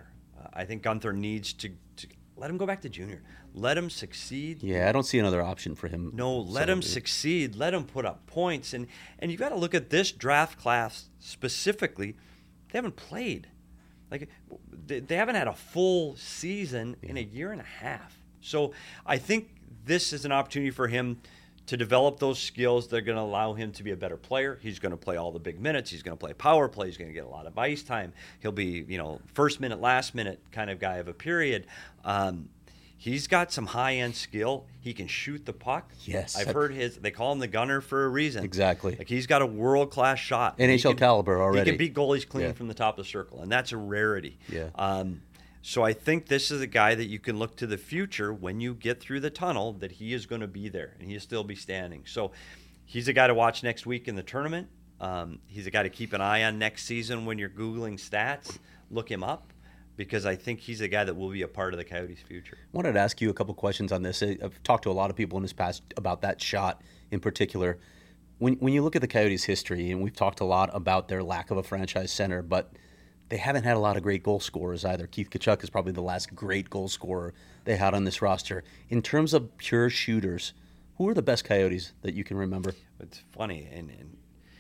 I think Gunther needs to, to let him go back to junior. Let him succeed. Yeah, I don't see another option for him. No, let him So- succeed. Let him put up points. And, and you've got to look at this draft class specifically. They haven't played. Like they, they haven't had a full season in a year and a half. So I think this is an opportunity for him to develop those skills that are going to allow him to be a better player. He's going to play all the big minutes. He's going to play power play. He's going to get a lot of ice time. He'll be, you know, first minute, last minute kind of guy of a period. Um, he's got some high-end skill. He can shoot the puck. Yes. I've heard his, they call him the gunner for a reason. Exactly. Like he's got a world-class shot. N H L He can- caliber already. He can beat goalies clean Yeah. from the top of the circle, and that's a rarity. Yeah. Um, so I think this is a guy that you can look to the future when you get through the tunnel that he is going to be there and he'll still be standing. So he's a guy to watch next week in the tournament. Um, he's a guy to keep an eye on next season when you're Googling stats. Look him up because I think he's a guy that will be a part of the Coyotes' future. I wanted to ask you a couple questions on this. I've talked to a lot of people in this past about that shot in particular. When when you look at the Coyotes' history, and we've talked a lot about their lack of a franchise center, but they haven't had a lot of great goal scorers either. Keith Tkachuk is probably the last great goal scorer they had on this roster. In terms of pure shooters, who are the best Coyotes that you can remember? It's funny, and, and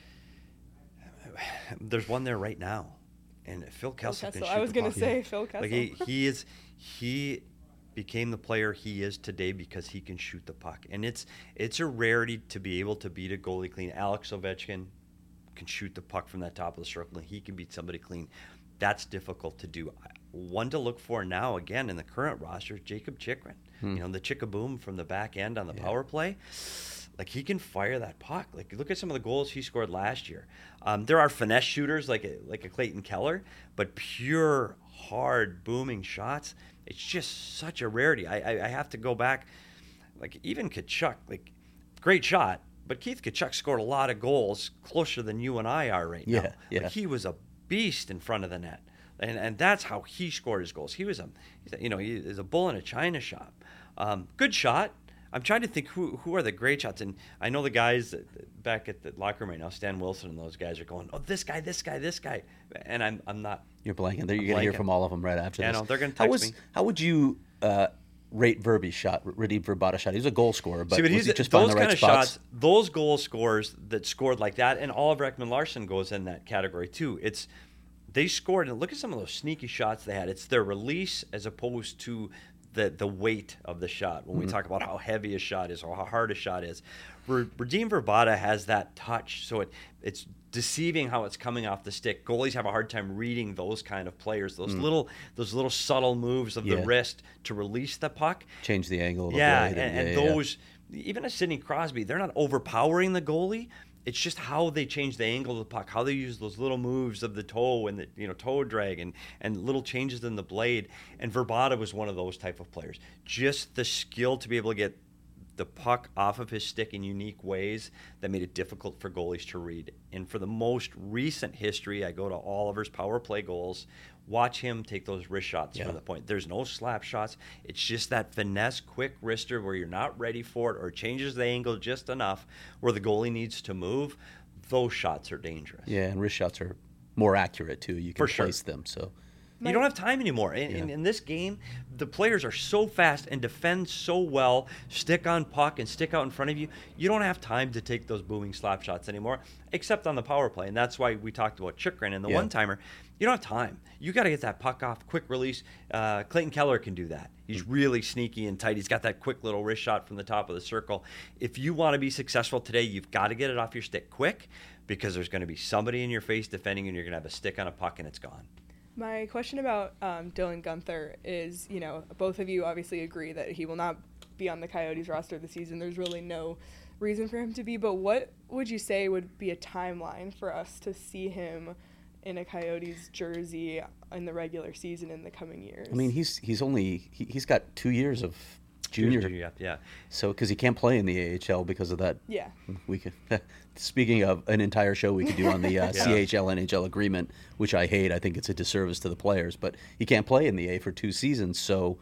there's one there right now, and Phil Kessel can Kessel. shoot I was the gonna puck. say Phil Kessel. Like he, he is, he became the player he is today because he can shoot the puck, and it's it's a rarity to be able to beat a goalie clean. Alex Ovechkin can shoot the puck from that top of the circle, and he can beat somebody clean. That's difficult to do. One to look for now, again, in the current roster, Jacob Chikrin. Hmm. You know, the Chickaboom from the back end on the power play. Like, he can fire that puck. Like, look at some of the goals he scored last year. Um, there are finesse shooters like a, like a Clayton Keller, but pure, hard, booming shots, it's just such a rarity. I, I, I have to go back. Like, even Tkachuk, like, great shot, but Keith Tkachuk scored a lot of goals closer than you and I are right Yeah, now. yeah. Like, he was a beast in front of the net, and and that's how he scored his goals. He was a, he's a you know, he is a bull in a china shop. Um, good shot. I'm trying to think who who are the great shots, and I know the guys that, back at the locker room right now, Stan Wilson and those guys are going, oh, this guy, this guy, this guy, and I'm I'm not. You're blanking. You're I'm going to hear blanking. from all of them right after Yeah, this. no, they're gonna how text was, me. How would you uh, rate Verby's shot, Radim Verbata's shot? He was a goal scorer, but, See, but was he's, he just those finding the kind right of spots? shots, those goal scorers that scored like that, and Oliver Ekman-Larsson goes in that category too. It's they scored, and look at some of those sneaky shots they had. It's their release as opposed to the the weight of the shot. When we Mm-hmm. talk about how heavy a shot is or how hard a shot is, Radim Verbata has that touch, so it it's deceiving how it's coming off the stick. Goalies have a hard time reading those kind of players, those little those little subtle moves of Mm. Yeah. the wrist to release the puck. Change the angle of the Yeah, blade. and, and yeah, yeah. those, even a Sidney Crosby, they're not overpowering the goalie. It's just how they change the angle of the puck, how they use those little moves of the toe and the you know toe drag and, and little changes in the blade. And Verbata was one of those type of players. Just the skill to be able to get the puck off of his stick in unique ways that made it difficult for goalies to read. And for the most recent history, I go to Oliver's power play goals. Watch him take those wrist shots Yeah. from the point. There's no slap shots. It's just that finesse, quick wrister where you're not ready for it or it changes the angle just enough where the goalie needs to move. Those shots are dangerous. Yeah, and wrist shots are more accurate too. You can For sure. place them. So You don't have time anymore. In, in, Yeah. in this game, the players are so fast and defend so well, stick on puck and stick out in front of you. You don't have time to take those booming slap shots anymore, except on the power play. And that's why we talked about Chikrin and the Yeah. one-timer. You don't have time. You got to get that puck off, quick release. Uh, Clayton Keller can do that. He's really sneaky and tight. He's got that quick little wrist shot from the top of the circle. If you want to be successful today, you've got to get it off your stick quick because there's going to be somebody in your face defending and you're going to have a stick on a puck and it's gone. My question about um, Dylan Gunther is, you know, both of you obviously agree that he will not be on the Coyotes roster this season. There's really no reason for him to be, but what would you say would be a timeline for us to see him in a Coyotes jersey in the regular season in the coming years? I mean, he's he's only he, he's got two years of junior, Yeah, yeah. so because he can't play in the A H L because of that. Yeah. We could. Speaking of an entire show we could do on the uh, Yeah. C H L N H L agreement, which I hate. I think it's a disservice to the players, but he can't play in the A for two seasons. So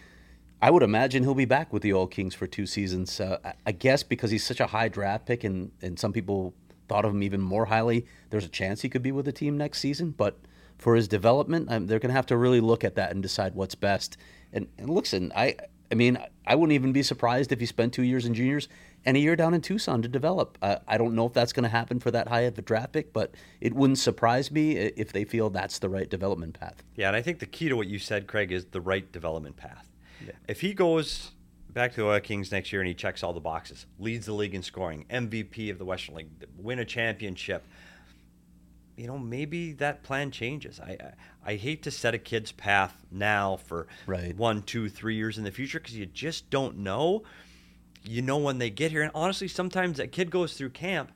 I would imagine he'll be back with the Oil Kings for two seasons. Uh, I- I guess because he's such a high draft pick, and and some people thought of him even more highly. There's a chance he could be with the team next season, but for his development, um, they're going to have to really look at that and decide what's best. And, and listen, I I mean, I wouldn't even be surprised if he spent two years in juniors and a year down in Tucson to develop. Uh, I don't know if that's going to happen for that high of a draft pick, but it wouldn't surprise me if they feel that's the right development path. Yeah, and I think the key to what you said, Craig, is the right development path. Yeah. If he goes back to the Oil Kings next year and he checks all the boxes, leads the league in scoring, M V P of the Western League, win a championship, you know, maybe that plan changes. I I, I hate to set a kid's path now for right. one, two, three years in the future because you just don't know. You know when they get here. And honestly, sometimes a kid goes through camp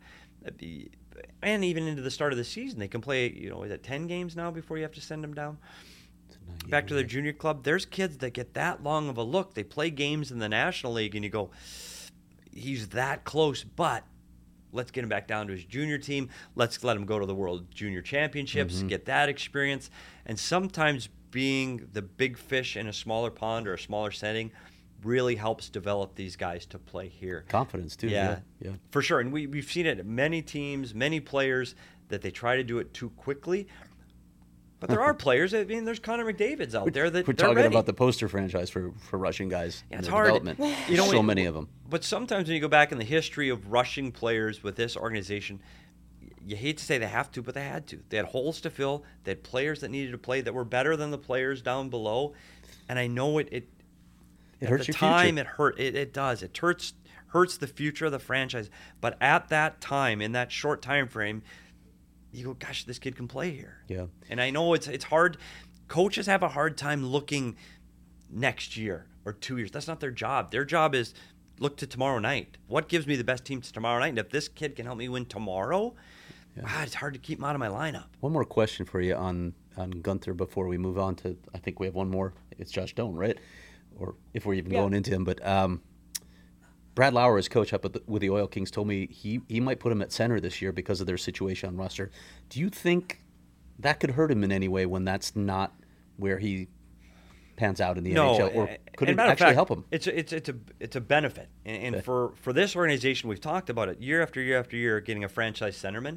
and even into the start of the season. They can play, you know, is it ten games now before you have to send them down? Back to their junior club. There's kids that get that long of a look. They play games in the National League and you go, he's that close, but let's get him back down to his junior team. Let's let him go to the World Junior Championships, mm-hmm. get that experience. And sometimes being the big fish in a smaller pond or a smaller setting really helps develop these guys to play here. Confidence, too. Yeah, yeah, yeah. For sure. And we, we've seen it at many teams, many players, that they try to do it too quickly. But there are players. I mean, there's Connor McDavid's out there that we're they're talking ready. about the poster franchise for, for rushing guys. Yeah, in it's their hard. Development. You know, so when, many of them. But sometimes when you go back in the history of rushing players with this organization, you hate to say they have to, but they had to. They had holes to fill. They had players that needed to play that were better than the players down below. And I know it. It, it at hurts the your time, future. it hurt. It, it does. It hurts hurts the future of the franchise. But at that time, in that short time frame, you go, gosh, this kid can play here. Yeah. And I know it's it's hard. Coaches have a hard time looking next year or two years. That's not their job. Their job is look to tomorrow night. What gives me the best team tomorrow night? And if this kid can help me win tomorrow, yeah. wow, it's hard to keep him out of my lineup. One more question for you on, on Gunther before we move on to, I think we have one more. It's Josh Doan, right? Or if we're even yeah. going into him. But um, Brad Lauer, his coach up at the, with the Oil Kings, told me he, he might put him at center this year because of their situation on roster. Do you think that could hurt him in any way when that's not where he pans out in the no, N H L, or could it actually fact, help him? It's a, it's it's a it's a benefit, and, and okay. for for this organization, we've talked about it year after year after year. Getting a franchise centerman,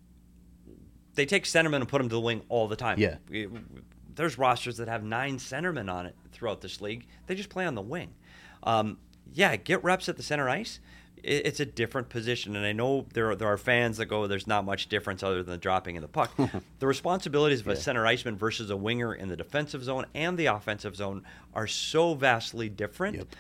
they take centerman and put them to the wing all the time. Yeah, we, we, there's rosters that have nine centermen on it throughout this league. They just play on the wing. Um, yeah, get reps at the center ice. It's a different position, and I know there are, there are fans that go, there's not much difference other than the dropping of the puck. The responsibilities of yeah. a center iceman versus a winger in the defensive zone and the offensive zone are so vastly different. Yep.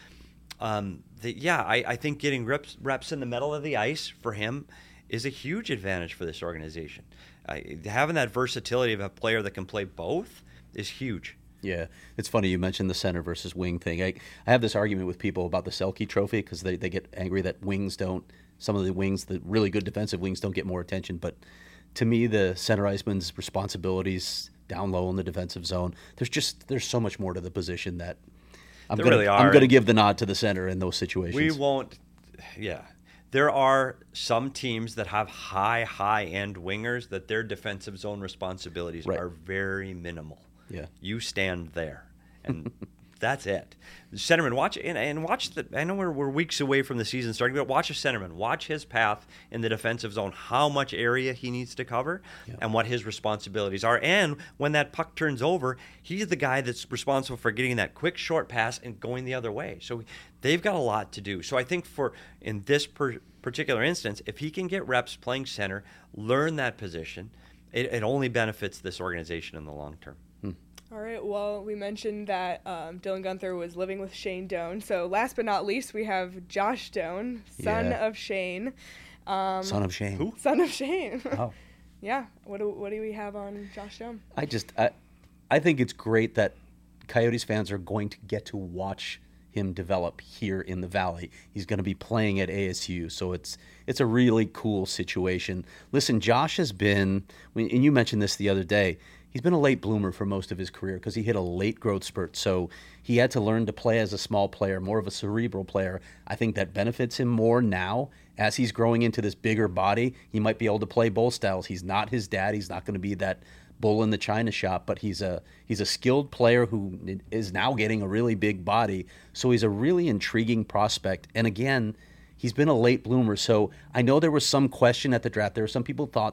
Um, that, yeah, I, I think getting reps, reps in the middle of the ice for him is a huge advantage for this organization. Uh, having that versatility of a player that can play both is huge. Yeah, it's funny you mentioned the center versus wing thing. I, I have this argument with people about the Selke Trophy because they, they get angry that wings don't, some of the wings, the really good defensive wings don't get more attention. But to me, the center iceman's responsibilities down low in the defensive zone, there's just, there's so much more to the position that I'm there gonna, really are. I'm going to give the nod to the center in those situations. We won't, yeah. There are some teams that have high, high-end wingers that their defensive zone responsibilities right. are very minimal. Yeah, you stand there, and that's it. Centerman, watch and, and watch the. I know we're, we're weeks away from the season starting, but watch a centerman. Watch his path in the defensive zone. How much area he needs to cover, yeah. and what his responsibilities are. And when that puck turns over, he's the guy that's responsible for getting that quick short pass and going the other way. So they've got a lot to do. So I think for in this per, particular instance, if he can get reps playing center, learn that position, it, it only benefits this organization in the long term. All right, well, we mentioned that um, Dylan Gunther was living with Shane Doan. So last but not least, we have Josh Doan, son yeah. of Shane. Um, son of Shane. Who? Son of Shane. Oh. yeah. What do, what do we have on Josh Doan? I just, I, I think it's great that Coyotes fans are going to get to watch him develop here in the Valley. He's going to be playing at A S U, so it's it's a really cool situation. Listen, Josh has been, and you mentioned this the other day, he's been a late bloomer for most of his career because he hit a late growth spurt. So he had to learn to play as a small player, more of a cerebral player. I think that benefits him more now as he's growing into this bigger body. He might be able to play both styles. He's not his dad. He's not going to be that bull in the china shop, but he's a he's a skilled player who is now getting a really big body. So he's a really intriguing prospect. And again, he's been a late bloomer. So I know there was some question at the draft. There were some people thought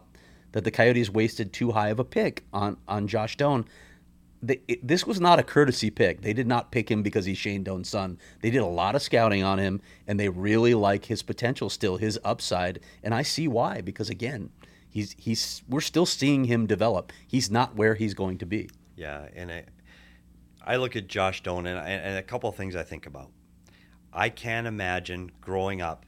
that the Coyotes wasted too high of a pick on, on Josh Doan. They, it, this was not a courtesy pick. They did not pick him because he's Shane Doan's son. They did a lot of scouting on him, and they really like his potential still, his upside. And I see why, because again, he's he's we're still seeing him develop. He's not where he's going to be. Yeah, and I, I look at Josh Doan, and, and a couple of things I think about. I can't imagine growing up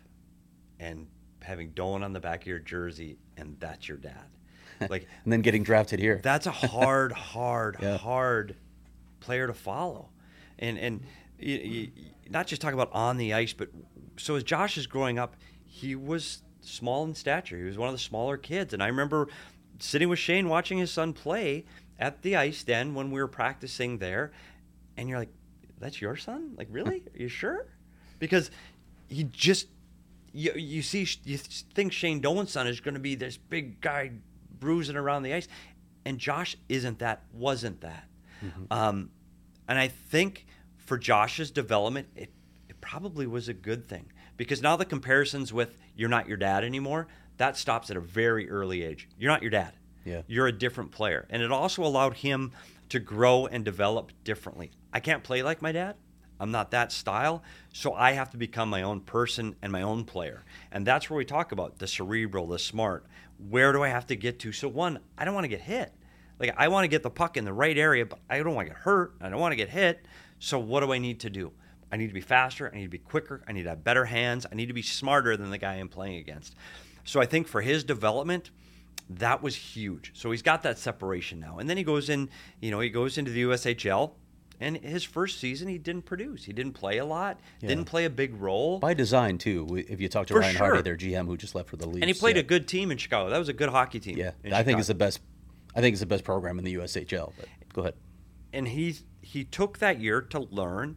and having Doan on the back of your jersey, and that's your dad. Like, and then getting drafted here. That's a hard, hard, yeah. hard player to follow. And and you, you, not just talk about on the ice, but so as Josh is growing up, he was small in stature. He was one of the smaller kids. And I remember sitting with Shane watching his son play at the ice den when we were practicing there. And you're like, that's your son? Like, really? Are you sure? Because he just, you, you see, you think Shane Doan's son is going to be this big guy bruising around the ice, and Josh isn't that, wasn't that. Mm-hmm. Um, and I think for Josh's development, it, it probably was a good thing, because now the comparisons with you're not your dad anymore, that stops at a very early age. You're not your dad. Yeah. You're a different player. And it also allowed him to grow and develop differently. I can't play like my dad. I'm not that style, so I have to become my own person and my own player. And that's where we talk about the cerebral, the smart. Where do I have to get to? So one, I don't want to get hit. Like, I want to get the puck in the right area, but I don't want to get hurt. I don't want to get hit. So what do I need to do? I need to be faster. I need to be quicker. I need to have better hands. I need to be smarter than the guy I'm playing against. So I think for his development, that was huge. So he's got that separation now. And then he goes in, you know, he goes into the U S H L. And his first season, he didn't produce. He didn't play a lot. Yeah. Didn't play a big role. By design, too. If you talk to for Ryan sure. Hardy, their G M, who just left for the Leafs. And he played yeah. a good team in Chicago. That was a good hockey team. Yeah, I Chicago. think it's the best. I think it's the best program in the U S H L. But go ahead. And he he took that year to learn,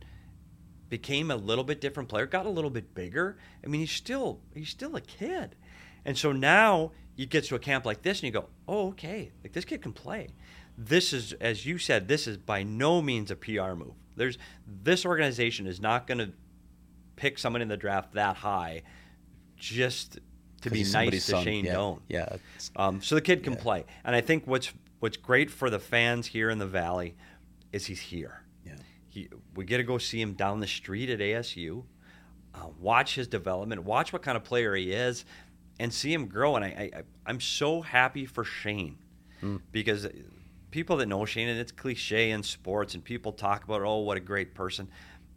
became a little bit different player, got a little bit bigger. I mean, he's still he's still a kid, and so now you get to a camp like this, and you go, oh, okay, like this kid can play. This is, as you said, this is by no means a P R move. There's this organization is not going to pick someone in the draft that high just to be nice to son. Shane yeah. Doan. Yeah. Um, so the kid can yeah. play, and I think what's what's great for the fans here in the Valley is he's here. Yeah. He, we get to go see him down the street at A S U, uh, watch his development, watch what kind of player he is, and see him grow. And I, I I'm so happy for Shane mm. because people that know Shane, and it's cliche in sports, and people talk about, oh, what a great person.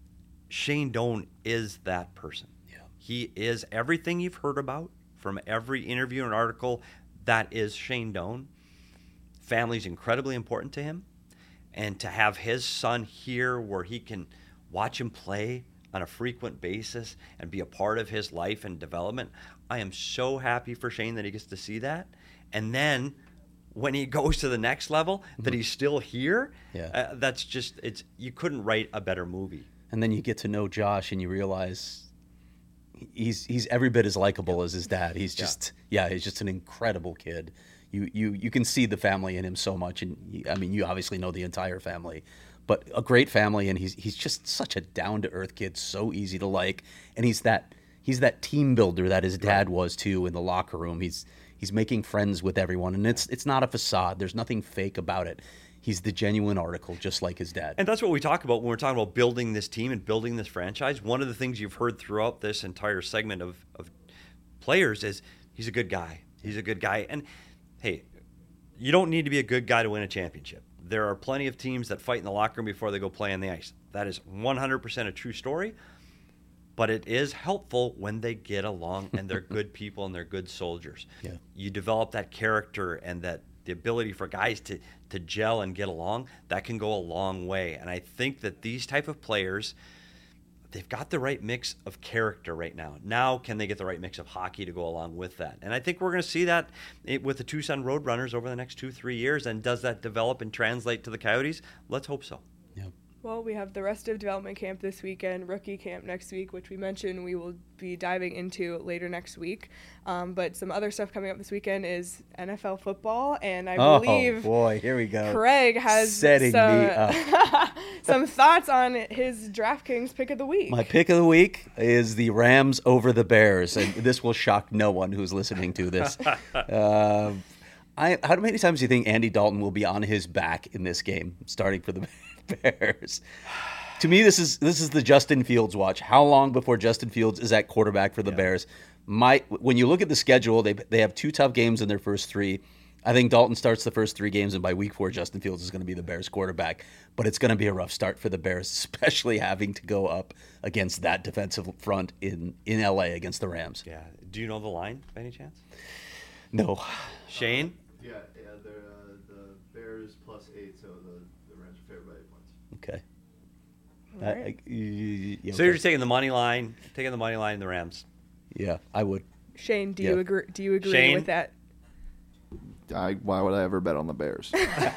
Shane Doan is that person. Yeah. He is everything you've heard about from every interview and article. That is Shane Doan. Family's incredibly important to him. And to have his son here where he can watch him play on a frequent basis and be a part of his life and development, I am so happy for Shane that he gets to see that. And then when he goes to the next level, mm-hmm. that he's still here, yeah. uh, that's just, it's you couldn't write a better movie. And then you get to know Josh and you realize he's he's every bit as likable as his dad. He's just, yeah, yeah he's just an incredible kid. You, you you can see the family in him so much. And you, I mean, you obviously know the entire family, but a great family. And he's he's just such a down-to-earth kid, so easy to like. And he's that he's that team builder that his dad was too in the locker room. He's He's making friends with everyone, and it's it's not a facade. There's nothing fake about it. He's the genuine article, just like his dad. And that's what we talk about when we're talking about building this team and building this franchise. One of the things you've heard throughout this entire segment of, of players is he's a good guy. He's a good guy. And, hey, you don't need to be a good guy to win a championship. There are plenty of teams that fight in the locker room before they go play on the ice. That is one hundred percent a true story. But it is helpful when they get along and they're good people and they're good soldiers. Yeah. You develop that character and that the ability for guys to, to gel and get along, that can go a long way. And I think that these type of players, they've got the right mix of character right now. Now can they get the right mix of hockey to go along with that? And I think we're going to see that with the Tucson Roadrunners over the next two, three years. And does that develop and translate to the Coyotes? Let's hope so. Yeah. Well, we have the rest of development camp this weekend, rookie camp next week, which we mentioned we will be diving into later next week. Um, but some other stuff coming up this weekend is N F L football, and I oh, believe boy, here we go. Craig has Setting some, me up. some thoughts on his DraftKings pick of the week. My pick of the week is the Rams over the Bears, and this will shock no one who's listening to this. uh, I, how many times do you think Andy Dalton will be on his back in this game, starting for the Bears? To me, this is this is the Justin Fields watch. How long before Justin Fields is at quarterback for the yeah. Bears? My when you look at the schedule, they they have two tough games in their first three. I think Dalton starts the first three games, and by week four, Justin Fields is going to be the Bears quarterback. But it's going to be a rough start for the Bears, especially having to go up against that defensive front in, in L A against the Rams. Yeah. Do you know the line by any chance? No. Shane? Yeah, yeah. They're uh, the Bears plus eight, so the, the Rams are favored by eight points. Okay. All right. I, I, yeah, so okay. you're taking the money line, taking the money line in the Rams. Yeah, I would. Shane, do Yeah. you agree? Do you agree Shane? with that? I, why would I ever bet on the Bears?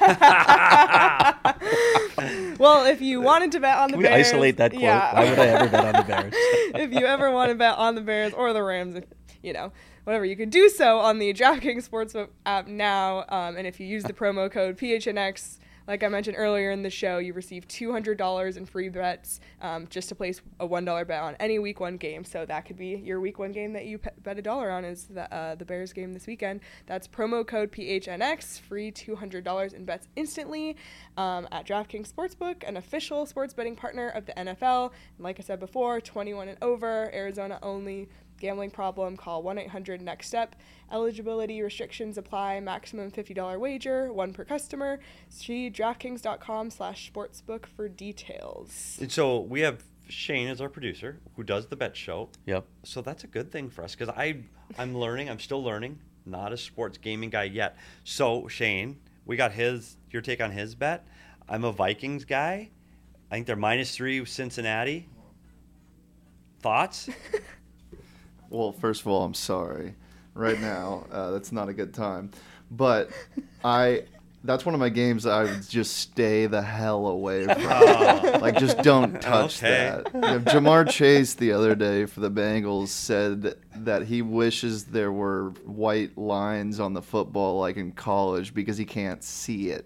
Well, if you wanted to bet on the Can we Bears, isolate that quote? Yeah. Why would I ever bet on the Bears? If you ever want to bet on the Bears or the Rams, if, you know, whatever, you can do so on the DraftKings Sportsbook app now. Um, and if you use the promo code P H N X, like I mentioned earlier in the show, you receive two hundred dollars in free bets um, just to place a one dollar bet on any week one game. So that could be your week one game that you pe- bet a dollar on is the, uh, the Bears game this weekend. That's promo code P H N X, free two hundred dollars in bets instantly um, at DraftKings Sportsbook, an official sports betting partner of the N F L. And like I said before, twenty-one and over, Arizona only. Gambling problem, call one eight hundred next step. Eligibility restrictions apply. Maximum fifty dollars wager, one per customer. See DraftKings.com slash sportsbook for details. And so we have Shane as our producer who does the bet show. Yep. So that's a good thing for us because I I'm learning. I'm still learning. Not a sports gaming guy yet. So Shane, we got his your take on his bet. I'm a Vikings guy. I think they're minus three with Cincinnati. Thoughts? Well, first of all, I'm sorry. Right now, uh, that's not a good time. But I, that's one of my games that I would just stay the hell away from. Oh. Like, just don't touch Okay. that. You know, Jamar Chase the other day for the Bengals said that he wishes there were white lines on the football like in college because he can't see it.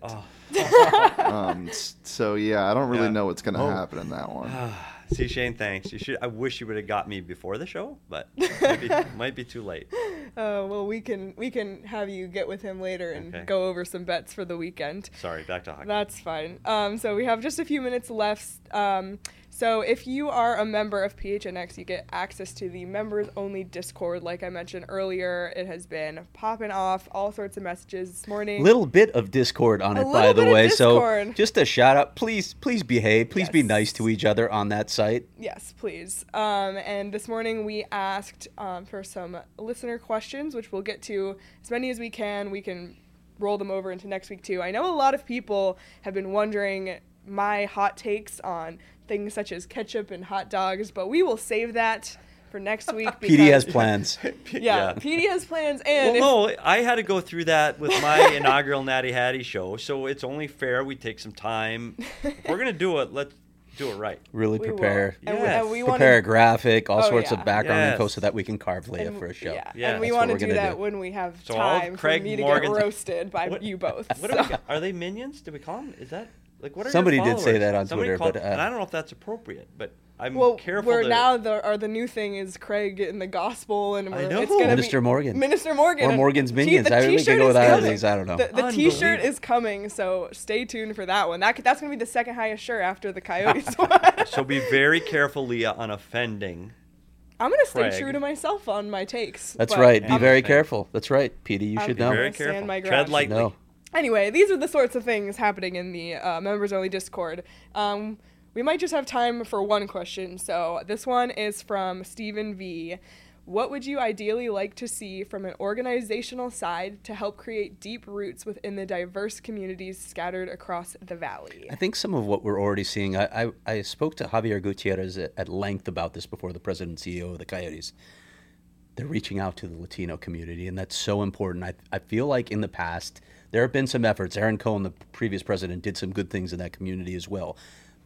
Oh. Um, s- so, yeah, I don't really Yeah. know what's going to Oh. happen in that one. See, Shane, thanks. You should. I wish you would have got me before the show, but might be, might be too late. Uh, well, we can we can have you get with him later and Okay. go over some bets for the weekend. Sorry, back to hockey. That's fine. Um, so we have just a few minutes left. Um, so if you are a member of P H N X, you get access to the members-only Discord. Like I mentioned earlier, it has been popping off all sorts of messages this morning. Little bit of Discord on A it, by little the bit of way. So Discord. just a shout out. Please, please behave. Please be Yes. nice to each other on that site. Yes, please. Um, and this morning we asked um, for some listener questions, which we'll get to as many as we can. We can roll them over into next week too. I know a lot of people have been wondering my hot takes on things such as ketchup and hot dogs, but we will save that for next week. P D has because- plans. Yeah, Yeah. P D has plans, and if- Well, no, I had to go through that with my inaugural Natty Hattie show, so it's only fair we take some time. If we're gonna do it, let's do it right. Really we will. prepare. And we, Yes. and we wanna- Prepare a graphic, all Oh, sorts yeah. of background Yes. info so that we can carve Leia and- for a show. Yeah, Yeah, and we that's want what to we're do gonna that do. when we have So all time Craig for me to Morgan's- get roasted by What- you both. What so. are, we, are they minions? Did we call them? Is that like what are your Somebody did say followers? that on Somebody Twitter, called- but, uh, and I don't know if that's appropriate, but I'm Well, careful. we're to, now the or the new thing is Craig in the gospel, and I we're, know. it's gonna Minister be Morgan. Minister Morgan, Or Morgan's T- Minions. the I really t-shirt can go is with either of coming. these. I don't know. The, the T-shirt Unbelievable. is coming, so stay tuned for that one. That could, that's gonna be the second highest shirt after the Coyotes one. So be very careful, Leah, on offending. I'm gonna stay Craig. true to myself on my takes. That's but right. Be I'm- very Okay. careful. That's right, Petey. You I'll should be know. Very Stand careful. my Tread ground. lightly. No. Anyway, these are the sorts of things happening in the uh, members only Discord. Um, we might just have time for one question. So this one is from Stephen V. What would you ideally like to see from an organizational side to help create deep roots within the diverse communities scattered across the valley? I think some of what we're already seeing, I, I, I spoke to Javier Gutierrez at, at length about this before, the president and C E O of the Coyotes. They're reaching out to the Latino community, and that's so important. I, I feel like in the past, there have been some efforts. Aaron Cohen, the previous president, did some good things in that community as well.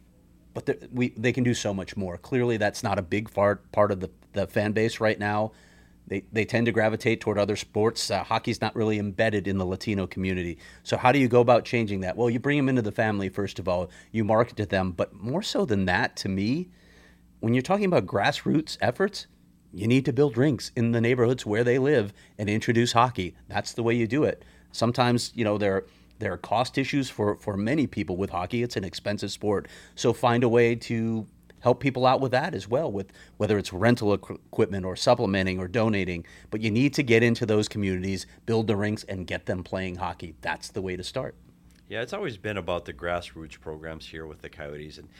But there- we they can do so much more. Clearly, that's not a big part, part of the, the fan base right now. They, they tend to gravitate toward other sports. Uh, hockey's not really embedded in the Latino community. So how do you go about changing that? Well, you bring them into the family, first of all. You market to them. But more so than that, to me, when you're talking about grassroots efforts, you need to build rinks in the neighborhoods where they live and introduce hockey. That's the way you do it. Sometimes, you know, there there are cost issues for, for many people with hockey. It's an expensive sport. So find a way to help people out with that as well, with whether it's rental equ- equipment or supplementing or donating. But you need to get into those communities, build the rinks, and get them playing hockey. That's the way to start. Yeah, it's always been about the grassroots programs here with the Coyotes, and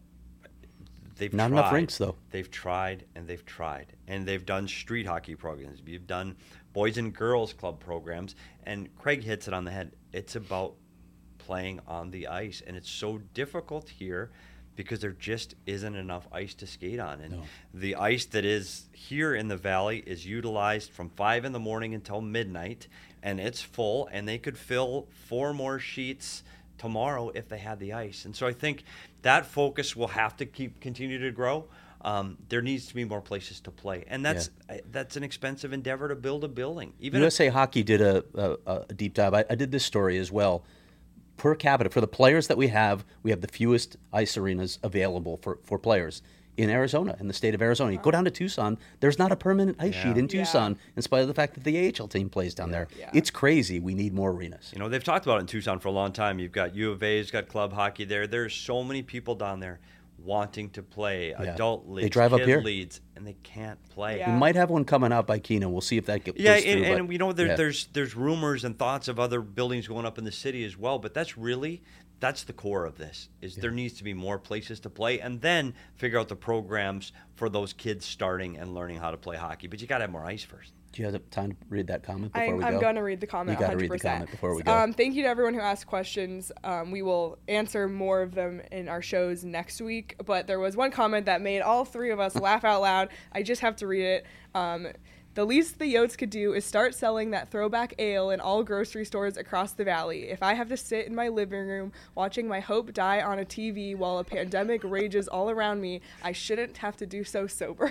they've Not tried. enough rinks, though. They've tried and they've tried, and they've done street hockey programs. You've done boys and girls club programs, and Craig hits it on the head. It's about playing on the ice, and it's so difficult here because there just isn't enough ice to skate on. And No. the ice that is here in the valley is utilized from five in the morning until midnight, and it's full, and they could fill four more sheets tomorrow if they had the ice. And so I think that focus will have to keep continue to grow. Um, there needs to be more places to play, and that's yeah. uh, that's an expensive endeavor to build a building. Even U S A Hockey did a, a, a deep dive. I, I did this story as well. Per capita, for the players that we have, we have the fewest ice arenas available for, for players in Arizona, in the state of Arizona. You go down to Tucson, there's not a permanent ice Yeah. sheet in Tucson, Yeah. in spite of the fact that the A H L team plays down there. Yeah. It's crazy. We need more arenas. You know, they've talked about it in Tucson for a long time. You've got U of A's got club hockey there. There's so many people down there wanting to play Yeah. adult leagues, They drive up kid here. leagues, and they can't play. Yeah. We might have one coming out by Keenan. We'll see if that goes Yeah, through. and, but, and we know there, yeah. there's there's rumors and thoughts of other buildings going up in the city as well, but that's really that's the core of this. Is there needs to be more places to play, and then figure out the programs for those kids starting and learning how to play hockey. But you got to have more ice first. Do you have time to read that comment before I'm, we I'm go? going to read the comment. You got to read the one hundred percent. comment before we go. Um, thank you to everyone who asked questions. Um, we will answer more of them in our shows next week. But there was one comment that made all three of us laugh out loud. I just have to read it. Um, the least the Yotes could do is start selling that throwback ale in all grocery stores across the valley. If I have to sit in my living room watching my hope die on a T V while a pandemic rages all around me, I shouldn't have to do so sober.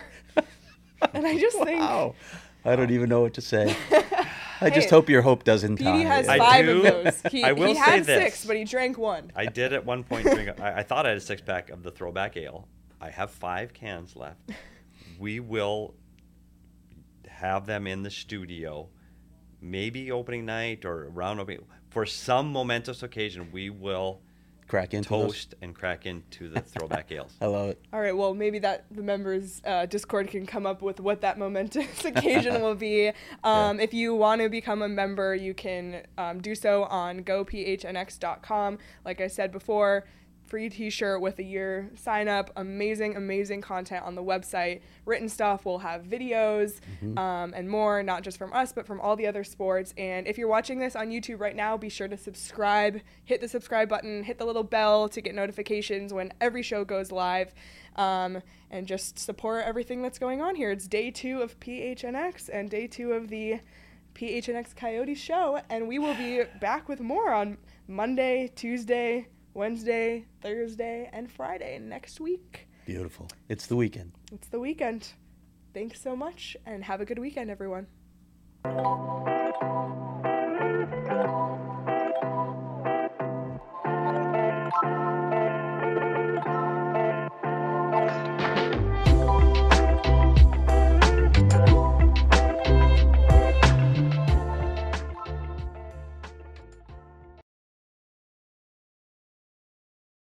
And I just think... Wow. I don't even know what to say. I just Hey, hope your hope doesn't die. Petey has I five do- of those. He, I will he say had this. six, but he drank one. I did at one point drink. I, I thought I had a six pack of the throwback ale. I have five cans left. We will have them in the studio, maybe opening night or around opening for some momentous occasion. We will Crack into those. toast and crack into the throwback ales. I love it. All right, well, maybe that the members' uh, Discord can come up with what that momentous occasion will be. Um, If you want to become a member, you can um, do so on go p h n x dot com. Like I said before, free t-shirt with a year sign up. Amazing, amazing content on the website. Written stuff. We'll have videos um, and more, not just from us, but from all the other sports. And if you're watching this on YouTube right now, be sure to subscribe. Hit the subscribe button. Hit the little bell to get notifications when every show goes live. Um, and just support everything that's going on here. It's day two of P H N X and day two of the P H N X Coyotes show. And we will be back with more on Monday, Tuesday, Wednesday, Thursday, and Friday next week. Beautiful. It's the weekend. It's the weekend. Thanks so much, and have a good weekend, everyone.